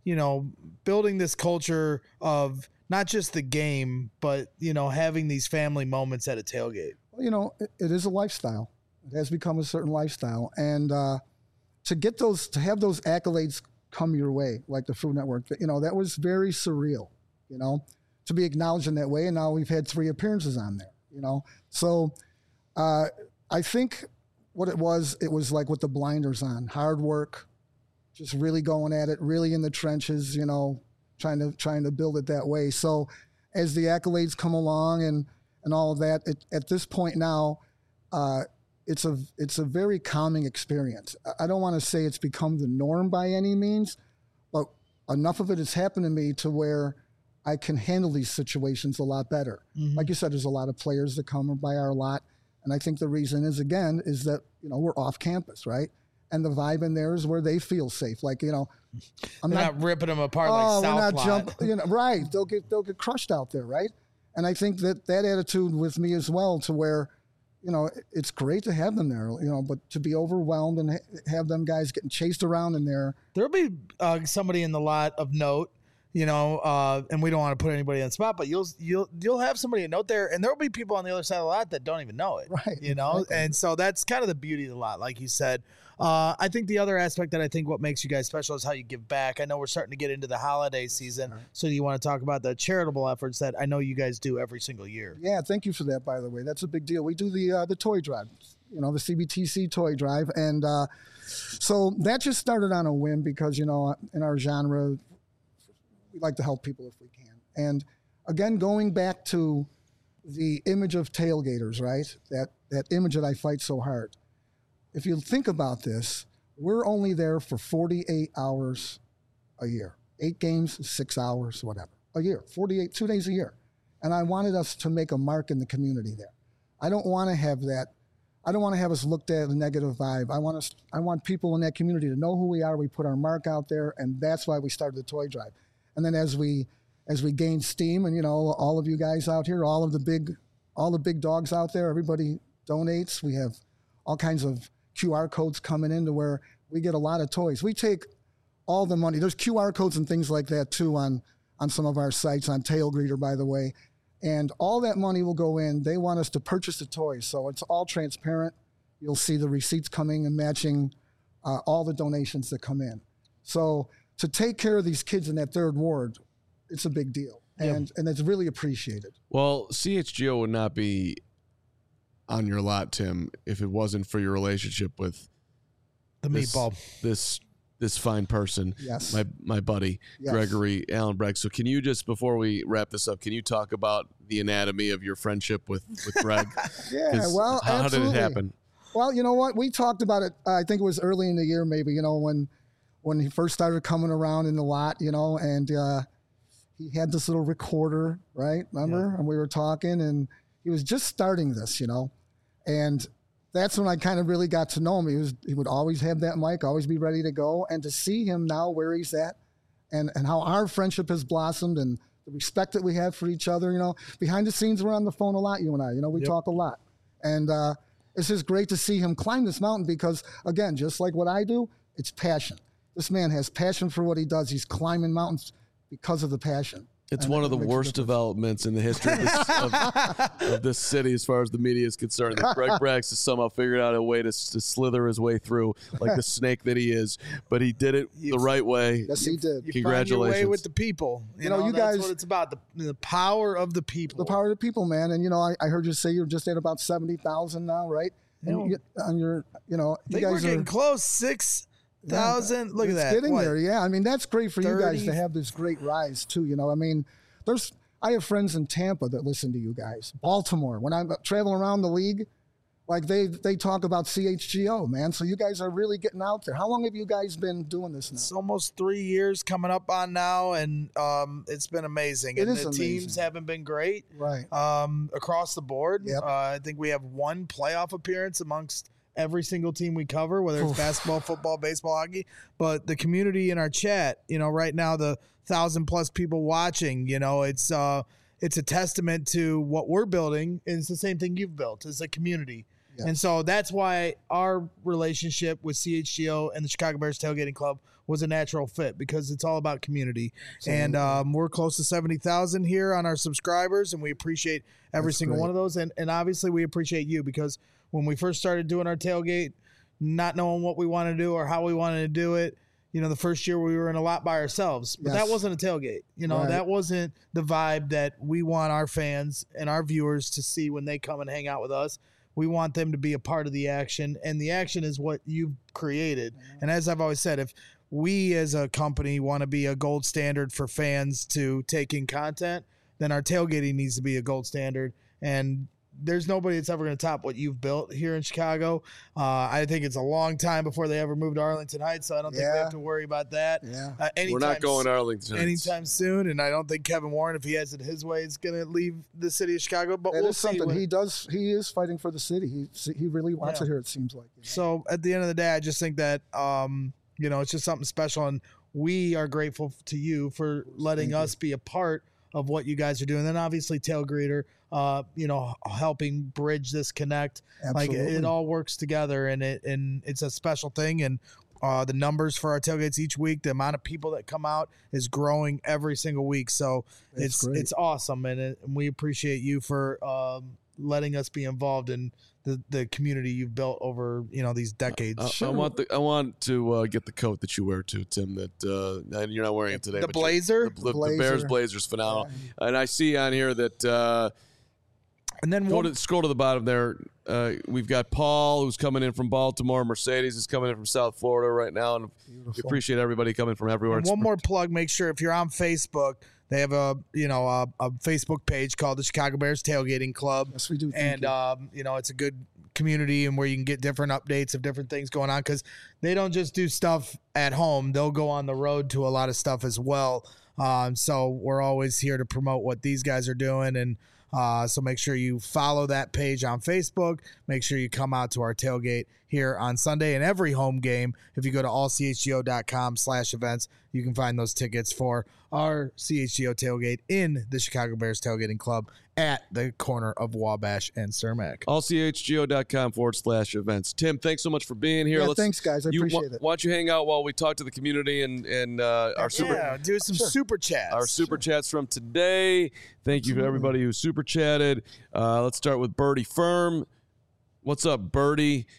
building this culture of not just the game, but, having these family moments at a tailgate? Well, it is a lifestyle. It has become a certain lifestyle. And to have those accolades come your way, like the Food Network, that was very surreal, to be acknowledged in that way. And now we've had 3 appearances on there, So I think what it was like with the blinders on, hard work, just really going at it, really in the trenches, trying to build it that way. So as the accolades come along and all of that, at this point now, it's a very calming experience. I don't want to say it's become the norm by any means, but enough of it has happened to me to where I can handle these situations a lot better. Mm-hmm. Like you said, there's a lot of players that come by our lot. And I think the reason is that, we're off campus, right? And the vibe in there is where they feel safe. Like, I'm not ripping them apart like South Lot. Right. They'll get crushed out there, right? And I think that attitude with me as well, to where, it's great to have them there, but to be overwhelmed and have them guys getting chased around in there. There'll be somebody in the lot of note, and we don't want to put anybody on the spot, but you'll have somebody a note there, and there'll be people on the other side of the lot that don't even know it, right? Exactly. And so that's kind of the beauty of the lot, like you said. I think the other aspect that I think what makes you guys special is how you give back. I know we're starting to get into the holiday season, so you want to talk about the charitable efforts that I know you guys do every single year. Yeah, thank you for that, by the way. That's a big deal. We do the toy drive, the CBTC toy drive, and so that just started on a whim because, in our genre, we like to help people if we can. And again, going back to the image of tailgaters, right? That image that I fight so hard. If you think about this, we're only there for 48 hours a year. 8 games, 6 hours, whatever. A year, 48, 2 days a year. And I wanted us to make a mark in the community there. I don't want to have that. I don't want to have us looked at a negative vibe. I want people in that community to know who we are. We put our mark out there, and that's why we started the toy drive. And then as we gain steam, and all of you guys out here, all the big dogs out there, everybody donates. We have all kinds of QR codes coming in to where we get a lot of toys. We take all the money. There's QR codes and things like that too on some of our sites, on Tailgreeter, by the way. And all that money will go in. They want us to purchase the toys. So it's all transparent. You'll see the receipts coming and matching all the donations that come in. So to take care of these kids in that 3rd ward, it's a big deal. And it's really appreciated. Well, CHGO would not be on your lot, Tim, if it wasn't for your relationship with the meatball. This fine person, yes, my buddy, yes, Gregory Allen Bragg. So can you just, before we wrap this up, can you talk about the anatomy of your friendship with Greg? Yeah, well, how absolutely. did it happen? Well, you know what? We talked about it, I think it was early in the year, maybe, when he first started coming around in the lot, and he had this little recorder, right? Remember? Yeah. And we were talking, and he was just starting this, and that's when I kind of really got to know him. He would always have that mic, always be ready to go. And to see him now where he's at and how our friendship has blossomed and the respect that we have for each other, behind the scenes, we're on the phone a lot, you and I, we talk a lot. And it's just great to see him climb this mountain because, again, just like what I do, it's passion. This man has passion for what he does. He's climbing mountains because of the passion. It's one of the worst developments in the history of this city as far as the media is concerned. That Greg Braggs has somehow figured out a way to slither his way through like the snake that he is. But he did it the right way. Yes, he did. You Congratulations. find your way with the people. You know, that's guys, what it's about, the power of the people. The power of the people, man. And, I heard you say you're just at about 70,000 now, right? And you guys we're getting close, 6,000. Look at that. It's getting there. Yeah. I mean, that's great for you guys to have this great rise too. I mean, I have friends in Tampa that listen to you guys. Baltimore, when I'm traveling around the league, like they talk about CHGO, man. So you guys are really getting out there. How long have you guys been doing this now? It's almost 3 years coming up on now, and it's been amazing. And the teams haven't been great, right? Across the board. Yep. I think we have one playoff appearance amongst every single team we cover, whether it's basketball, football, baseball, hockey. But the community in our chat, right now, the 1,000+ people watching, it's a testament to what we're building. And it's the same thing you've built as a community. Yeah. And so that's why our relationship with CHGO and the Chicago Bears Tailgating Club was a natural fit because it's all about community. And we're close to 70,000 here on our subscribers, and we appreciate every single one of those. And obviously we appreciate you, because when we first started doing our tailgate, not knowing what we want to do or how we wanted to do it, the first year we were in a lot by ourselves, but that wasn't a tailgate. That wasn't the vibe that we want our fans and our viewers to see when they come and hang out with us. We want them to be a part of the action, and the action is what you've created. And as I've always said, if we as a company want to be a gold standard for fans to take in content, then our tailgating needs to be a gold standard. And there's nobody that's ever going to top what you've built here in Chicago. I think it's a long time before they ever move to Arlington Heights, so I don't think we have to worry about that. We're not going to Arlington Heights anytime soon, and I don't think Kevin Warren, if he has it his way, is going to leave the city of Chicago. But we'll see. Something he is fighting for the city. He really wants it here, it seems like. So at the end of the day, I just think that it's just something special, and we are grateful to you for letting us be a part of what you guys are doing. Then obviously Tailgater, helping bridge this connect. Absolutely. Like it all works together, and it's a special thing. And the numbers for our tailgates each week, the amount of people that come out is growing every single week. So it's awesome, and we appreciate you for letting us be involved in the community you've built over these decades. I want to get the coat that you wear too, Tim. That you're not wearing it today. The blazer, the Bears blazer's phenomenal. Yeah. And I see on here that. And then scroll to the bottom there. We've got Paul, who's coming in from Baltimore. Mercedes is coming in from South Florida right now, and we appreciate everybody coming from everywhere. And one more plug: make sure if you're on Facebook, they have a Facebook page called the Chicago Bears Tailgating Club. Yes, we do. And it's a good community, and where you can get different updates of different things going on, because they don't just do stuff at home; they'll go on the road to a lot of stuff as well. So we're always here to promote what these guys are doing, and so make sure you follow that page on Facebook. Make sure you come out to our tailgate here on Sunday and every home game. If you go to allchgo.com/events, you can find those tickets for our CHGO tailgate in the Chicago Bears Tailgating Club at the corner of Wabash and Cermak. allchgo.com/events. Tim, thanks so much for being here. Yeah, thanks, guys. I appreciate it. Why don't you hang out while we talk to the community and our do some super chats. Our super chats from today. Thank you to everybody who super chatted. Let's start with Birdie Firm. What's up, Birdie?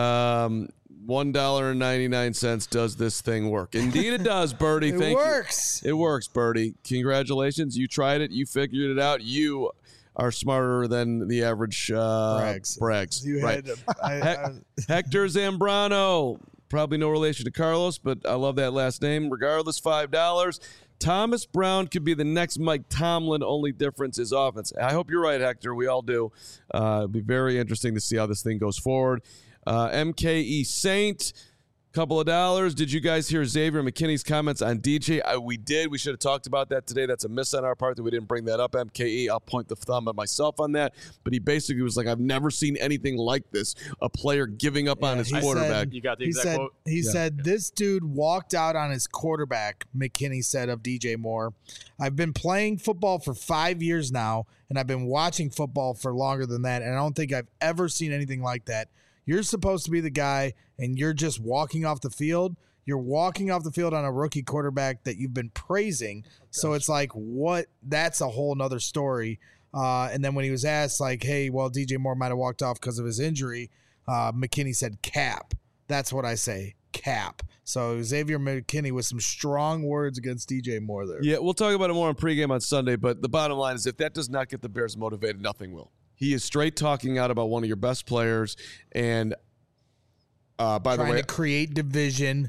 $1.99 does this thing work? Indeed it does, Birdie. Thank you. It works, Birdie. Congratulations. You tried it. You figured it out. You are smarter than the average Brags. You right. had Hector Zambrano. Probably no relation to Carlos, but I love that last name. Regardless, $5. Thomas Brown could be the next Mike Tomlin. Only difference is offense. I hope you're right, Hector. We all do. It'll be very interesting to see how this thing goes forward. MKE Saint, couple of dollars. Did you guys hear Xavier McKinney's comments on DJ? We did. We should have talked about that today. That's a miss on our part that we didn't bring that up, MKE. I'll point the thumb at myself on that. But he basically was like, I've never seen anything like this. A player giving up on his quarterback. You got the exact quote? He said, this dude walked out on his quarterback, McKinney said of DJ Moore. I've been playing football for 5 years now, and I've been watching football for longer than that, and I don't think I've ever seen anything like that. You're supposed to be the guy, and you're just walking off the field. You're walking off the field on a rookie quarterback that you've been praising. So it's like, what? That's a whole nother story. And then when he was asked, like, hey, well, DJ Moore might have walked off because of his injury, McKinney said, cap. That's what I say, cap. So Xavier McKinney with some strong words against DJ Moore there. Yeah, we'll talk about it more on pregame on Sunday, but the bottom line is if that does not get the Bears motivated, nothing will. He is straight talking out about one of your best players, and by the way, trying to create division.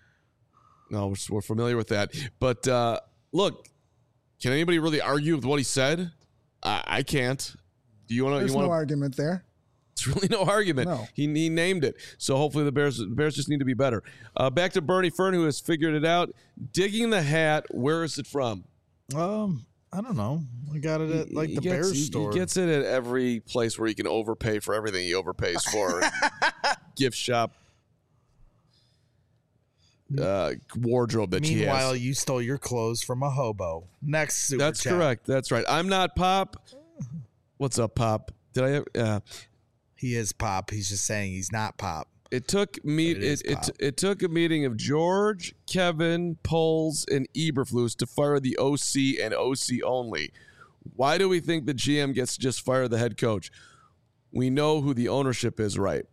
No, we're familiar with that. But look, can anybody really argue with what he said? I can't. Do you want to? There's no argument there. It's really no argument. No. He named it. So hopefully the Bears just need to be better. Back to Bernie Fern, who has figured it out. Digging the hat. Where is it from? I don't know. I got it at the Bears store. He gets it at every place where he can overpay for everything he overpays for. Gift shop. Wardrobe that he has. Meanwhile, you stole your clothes from a hobo. Next super That's chat. correct. That's right. I'm not Pop. What's up, Pop? Did I? He is Pop. He's just saying he's not Pop. It took it took a meeting of George, Kevin, Poles, and Eberflus to fire the OC and OC only. Why do we think the GM gets to just fire the head coach? We know who the ownership is, right?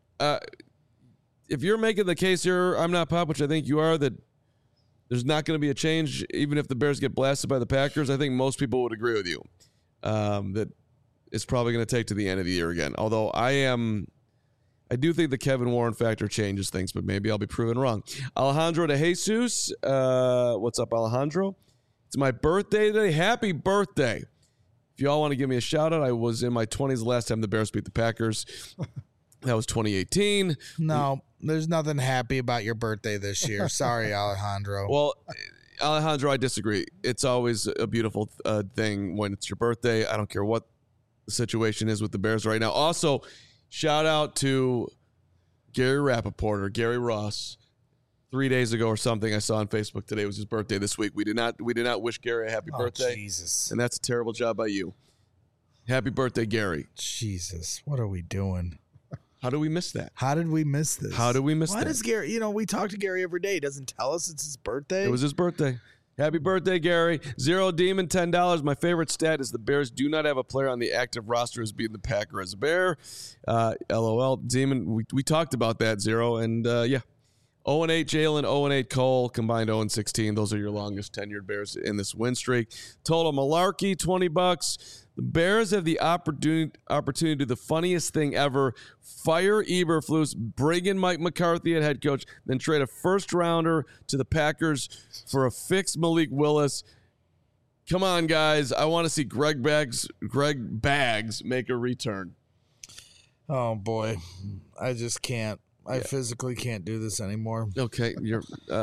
If you're making the case here, I'm not Pop, which I think you are, that there's not going to be a change even if the Bears get blasted by the Packers, I think most people would agree with you that it's probably going to take to the end of the year again. Although I do think the Kevin Warren factor changes things, but maybe I'll be proven wrong. Alejandro de Jesus. What's up, Alejandro? It's my birthday today. Happy birthday. If you all want to give me a shout out, I was in my 20s the last time the Bears beat the Packers. That was 2018. No, there's nothing happy about your birthday this year. Sorry, Alejandro. Well, Alejandro, I disagree. It's always a beautiful thing when it's your birthday. I don't care what the situation is with the Bears right now. Also, shout out to Gary Rappaport or Gary Ross. 3 days ago or something, I saw on Facebook today was his birthday this week. We did not wish Gary a happy birthday. Jesus. And that's a terrible job by you. Happy birthday, Gary. Jesus, what are we doing? How do we miss that? How did we miss this? How did we miss Why that? does Gary, we talk to Gary every day. He doesn't tell us it's his birthday. It was his birthday. Happy birthday, Gary. Zero Demon, $10. My favorite stat is the Bears do not have a player on the active roster who's beaten the Packer as a Bear. LOL. Demon, we talked about that, Zero. And, yeah. 0-8 Jalen, 0-8 Cole, combined 0-16. Those are your longest tenured Bears in this win streak. Total malarkey, $20. The Bears have the opportunity to do the funniest thing ever. Fire Eberflus, bring in Mike McCarthy at head coach, then trade a first-rounder to the Packers for a fixed Malik Willis. Come on, guys. I want to see Greg Baggs make a return. Oh, boy. I just can't. I physically can't do this anymore. Okay, you're.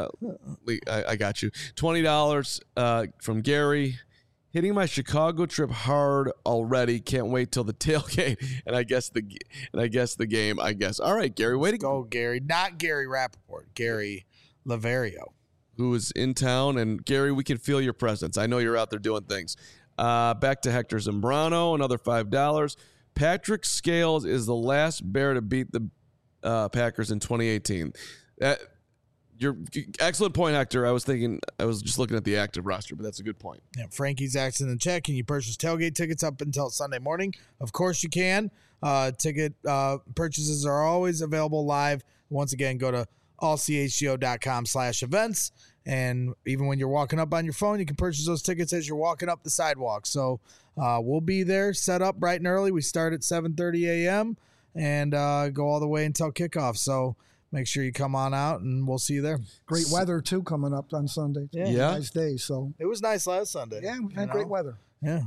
I got you. $20 from Gary. Hitting my Chicago trip hard already. Can't wait till the tailgate and I guess the game. I guess. All right, Gary. Way to go, Gary. Not Gary Rappaport. Gary Laverio, who is in town. And Gary, we can feel your presence. I know you're out there doing things. Back to Hector Zambrano. Another $5. Patrick Scales is the last Bear to beat the Packers in 2018. Your excellent point, Hector. I was just looking at the active roster, but that's a good point. Yeah, Frankie's asking in the chat, can you purchase tailgate tickets up until Sunday morning? Of course you can. Ticket purchases are always available live. Once again, go to allchgo.com/events. And even when you're walking up on your phone, you can purchase those tickets as you're walking up the sidewalk. So we'll be there set up bright and early. We start at 7:30 a.m. and go all the way until kickoff. So make sure you come on out, and we'll see you there. Great weather, too, coming up on Sunday. Yeah. Nice day. So it was nice last Sunday. Yeah, we had great weather. Yeah.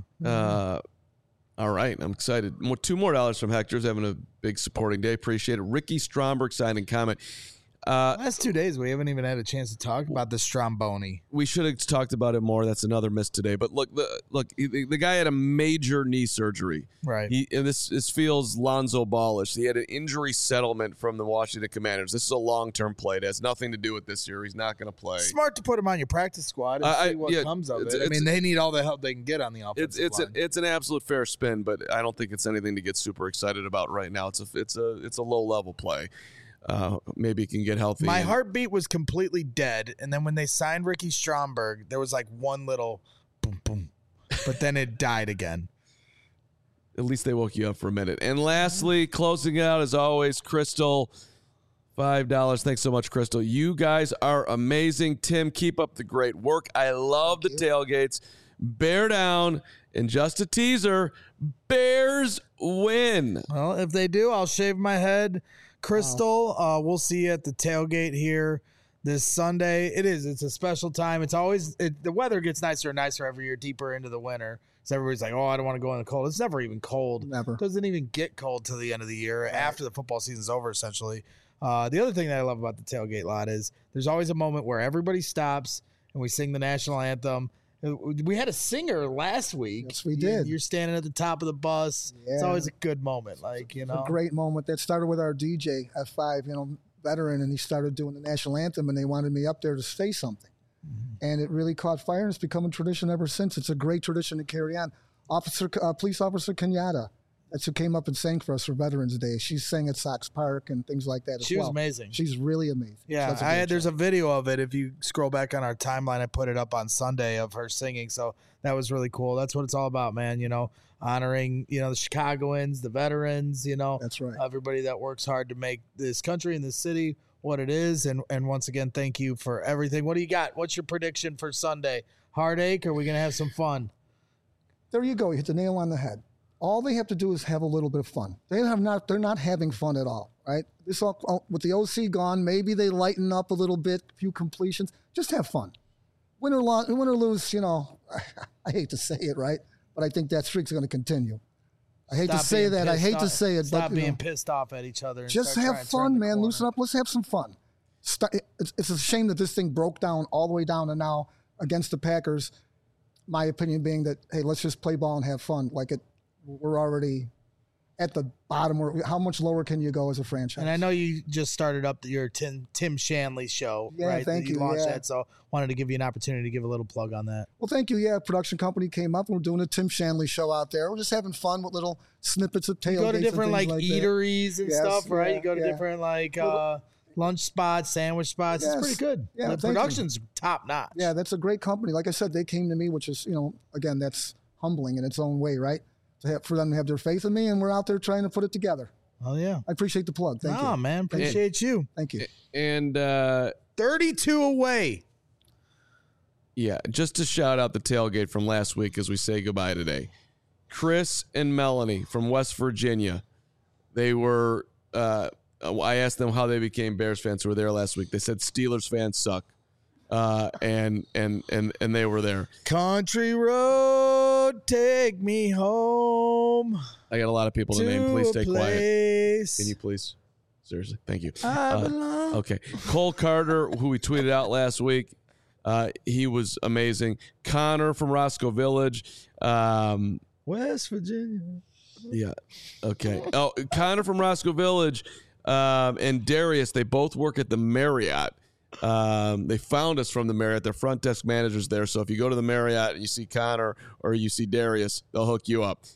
All right, I'm excited. $2 more from Hector's having a big supporting day. Appreciate it. Ricky Stromberg signing comment. Last 2 days, we haven't even had a chance to talk about the Stromboni. We should have talked about it more. That's another miss today. But look, the guy had a major knee surgery. Right. And this feels Lonzo Ballish. He had an injury settlement from the Washington Commanders. This is a long-term play. It has nothing to do with this year. He's not going to play. Smart to put him on your practice squad and see what comes of it. I mean, they need all the help they can get on the offensive line. It's an absolute fair spin, but I don't think it's anything to get super excited about right now. It's a low-level play. Maybe he can get healthy. My heartbeat was completely dead, and then when they signed Ricky Stromberg, there was like one little boom, boom, but then it died again. At least they woke you up for a minute. And lastly, closing out as always, Crystal, $5. Thanks so much, Crystal. You guys are amazing. Tim, keep up the great work. I love the tailgates. Bear down, and just a teaser, Bears win. Well, if they do, I'll shave my head. Crystal, we'll see you at the tailgate here this Sunday. It's a special time. It's always the weather gets nicer and nicer every year, deeper into the winter. So everybody's like, I don't want to go in the cold. It's never even cold. Never. It doesn't even get cold till the end of the year, after the football season's over, essentially. The other thing that I love about the tailgate lot is there's always a moment where everybody stops and we sing the national anthem. We had a singer last week. Yes, we did. You're standing at the top of the bus. Yeah. It's always a good moment. It's a great moment. That started with our DJ, F5, veteran, and he started doing the national anthem, and they wanted me up there to say something. Mm-hmm. And it really caught fire, and it's become a tradition ever since. It's a great tradition to carry on. Police Officer Kenyatta That's who came up and sang for us for Veterans Day. She sang at Sox Park and things like that as well. She was amazing. She's really amazing. Yeah, there's a video of it. If you scroll back on our timeline, I put it up on Sunday of her singing. So that was really cool. That's what it's all about, man. Honoring, the Chicagoans, the veterans, That's right. Everybody that works hard to make this country and this city what it is. And once again, thank you for everything. What do you got? What's your prediction for Sunday? Heartache, or are we going to have some fun? There you go. You hit the nail on the head. All they have to do is have a little bit of fun. They're not having fun at all, right? This all, with the OC gone, maybe they lighten up a little bit, a few completions. Just have fun. Win or lose, I hate to say it, right? But I think that streak's going to continue. I hate to say that. I hate to say it. Stop being pissed off at each other. And just have fun, man. Loosen up. Let's have some fun. It's a shame that this thing broke down all the way down to now against the Packers. My opinion being that, hey, let's just play ball and have fun. We're already at the bottom. How much lower can you go as a franchise? And I know you just started up your Tim Shanley show, right? Thank you. You launched that, so wanted to give you an opportunity to give a little plug on that. Well, thank you. Yeah, production company came up, and we're doing a Tim Shanley show out there. We're just having fun with little snippets of tailgates. You go to different like eateries and stuff, right? You go to different lunch spots, sandwich spots. It's pretty good. Yeah, the production's top notch. Yeah, that's a great company. Like I said, they came to me, which is, again, that's humbling in its own way, right? For them to have their faith in me, and we're out there trying to put it together. Oh, yeah. I appreciate the plug. Thank you. Oh, man. Appreciate you. Thank you. And 32 away. Yeah, just to shout out the tailgate from last week as we say goodbye today. Chris and Melanie from West Virginia. They were, I asked them how they became Bears fans who were there last week. They said Steelers fans suck. And they were there. Country road, take me home. I got a lot of people to name. Please stay quiet. Can you please? Seriously, thank you. Okay, Cole Carter, who we tweeted out last week, he was amazing. Connor from Roscoe Village, West Virginia. Yeah. Okay. Oh, Connor from Roscoe Village, and Darius. They both work at the Marriott. They found us from the Marriott. They're front desk managers there. So if you go to the Marriott and you see Connor or you see Darius, they'll hook you up.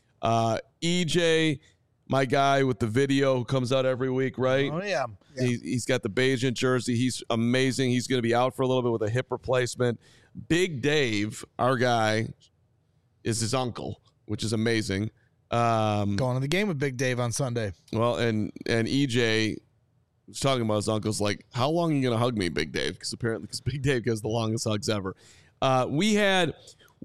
EJ, my guy with the video who comes out every week, right? Oh, yeah. He's got the Bayesian jersey. He's amazing. He's going to be out for a little bit with a hip replacement. Big Dave, our guy, is his uncle, which is amazing. Going to the game with Big Dave on Sunday. Well, and EJ was talking about his uncle's like, how long are you going to hug me, Big Dave? Because Big Dave gives the longest hugs ever. We had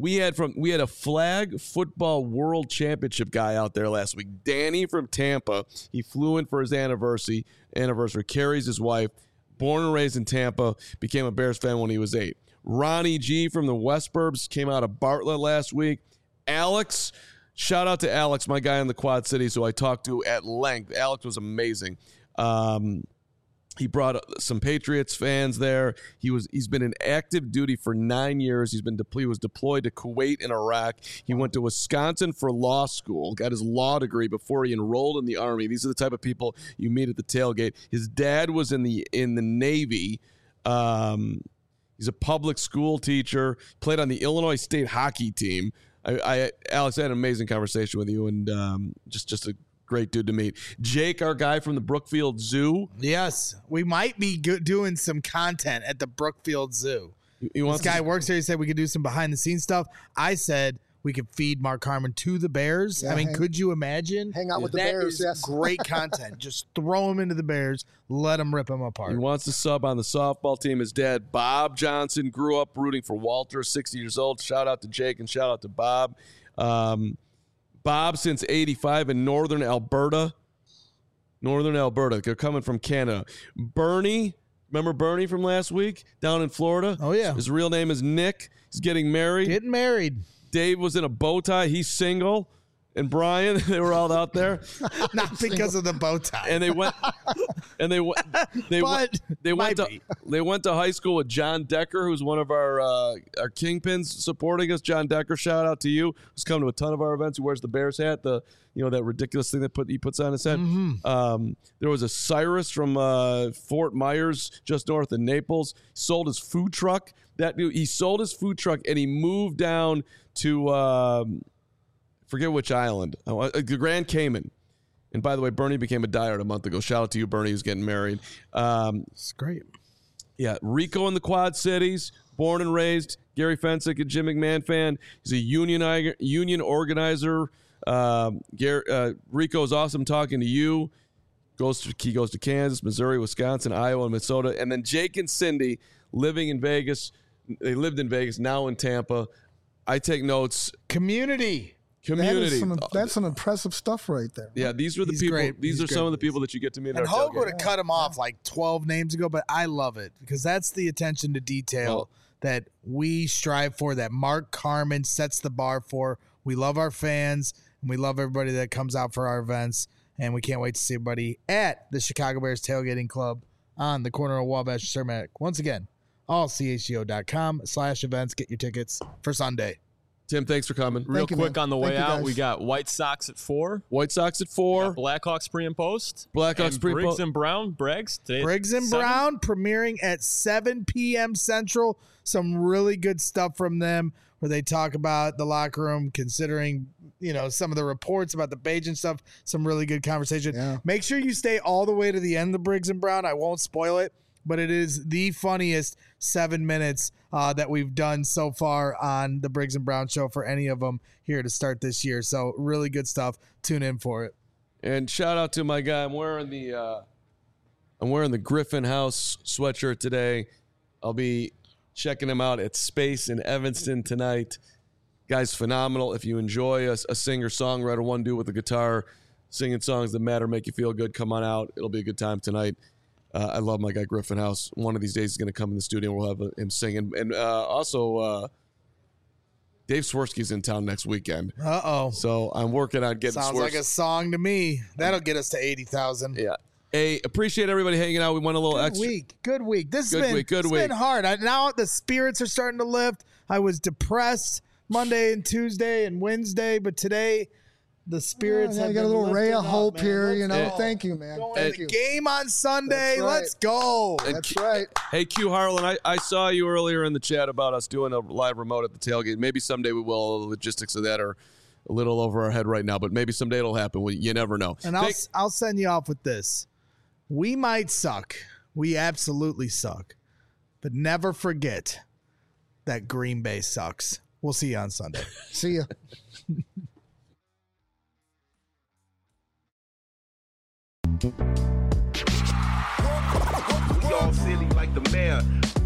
a flag football world championship guy out there last week. Danny from Tampa. He flew in for his anniversary. Carries his wife. Born and raised in Tampa. Became a Bears fan when he was 8. Ronnie G from the West Burbs came out of Bartlett last week. Alex, shout out to Alex, my guy in the Quad Cities who I talked to at length. Alex was amazing. He brought some Patriots fans there. He's been in active duty for 9 years. He was deployed to Kuwait and Iraq. He went to Wisconsin for law school, got his law degree before he enrolled in the Army. These are the type of people you meet at the tailgate. His dad was in the Navy. He's a public school teacher, played on the Illinois State hockey team. Alex, I had an amazing conversation with you, and just a great dude to meet. Jake, our guy from the Brookfield Zoo. Yes, we might be doing some content at the Brookfield Zoo. This guy works there. He said we could do some behind-the-scenes stuff. I said we could feed Mark Harmon to the Bears. Yeah, could you imagine? Hang out with the Bears, yes. Great content. Just throw him into the Bears. Let him rip him apart. He wants to sub on the softball team. His dad, Bob Johnson, grew up rooting for Walter, 60 years old. Shout out to Jake and shout out to Bob. Bob since 85 in Northern Alberta. They're coming from Canada. Bernie, remember Bernie from last week down in Florida? Oh, yeah. His real name is Nick. He's getting married. Dave was in a bow tie. He's single. And Brian, they were all out there. Not because of the bow tie. And they went to high school with John Decker, who's one of our kingpins supporting us. John Decker, shout out to you. Who's come to a ton of our events. Who wears the Bears hat, that ridiculous thing he puts on his head. Mm-hmm. There was a Cyrus from Fort Myers, just north of Naples. Sold his food truck. He sold his food truck and he moved down to forget which island, the Grand Cayman. And by the way, Bernie became a diehard a month ago. Shout out to you, Bernie, who's getting married. It's great. Yeah, Rico in the Quad Cities, born and raised. Gary Fensick, a Jim McMahon fan. He's a union organizer. Rico's awesome talking to you. He goes to Kansas, Missouri, Wisconsin, Iowa, and Minnesota. And then Jake and Cindy living in Vegas. They lived in Vegas, now in Tampa. I take notes. Community. That's some impressive stuff right there. Yeah, these were the people. Great. These are some of the people that you get to meet. And Hogue would have cut him off like 12 names ago, but I love it because that's the attention to detail that we strive for, that Mark Carman sets the bar for. We love our fans, and we love everybody that comes out for our events, and we can't wait to see everybody at the Chicago Bears Tailgating Club on the corner of Wabash and Cermak. Once again, allchgo.com/events. Get your tickets for Sunday. Tim, thanks for coming. Real quick on the way out, we got White Sox at 4. White Sox at 4. Blackhawks pre and post. Blackhawks pre and Briggs post. and Brown. Briggs and Brown premiering at 7 p.m. Central. Some really good stuff from them where they talk about the locker room, considering, some of the reports about the Page and stuff. Some really good conversation. Yeah. Make sure you stay all the way to the end of Briggs and Brown. I won't spoil it, but it is the funniest 7 minutes that we've done so far on the Briggs and Brown show for any of them here to start this year. So really good stuff. Tune in for it. And shout out to my guy. I'm wearing the Griffin House sweatshirt today. I'll be checking him out at Space in Evanston tonight. Guy's phenomenal. If you enjoy a singer-songwriter, one dude with a guitar singing songs that matter, make you feel good, come on out. It'll be a good time tonight. I love my guy Griffin House. One of these days he's going to come in the studio and we'll have him singing. And also, Dave Swirsky's in town next weekend. Uh-oh. So I'm working on getting Sounds like a song to me. That'll get us to 80,000. Yeah. Hey, appreciate everybody hanging out. We went a little extra. Good week. This Good has week. been hard. Now the spirits are starting to lift. I was depressed Monday and Tuesday and Wednesday, but today the spirits have got a little ray of hope man. here. Let's Thank you, man. Thank you. Game on Sunday. That's right. Let's go. That's right. Hey, Q Harlan, I saw you earlier in the chat about us doing a live remote at the tailgate. Maybe someday we will. The logistics of that are a little over our head right now, but maybe someday it'll happen. You never know. And I'll send you off with this. We might suck. We absolutely suck. But never forget that Green Bay sucks. We'll see you on Sunday. See ya. We all silly like the mayor.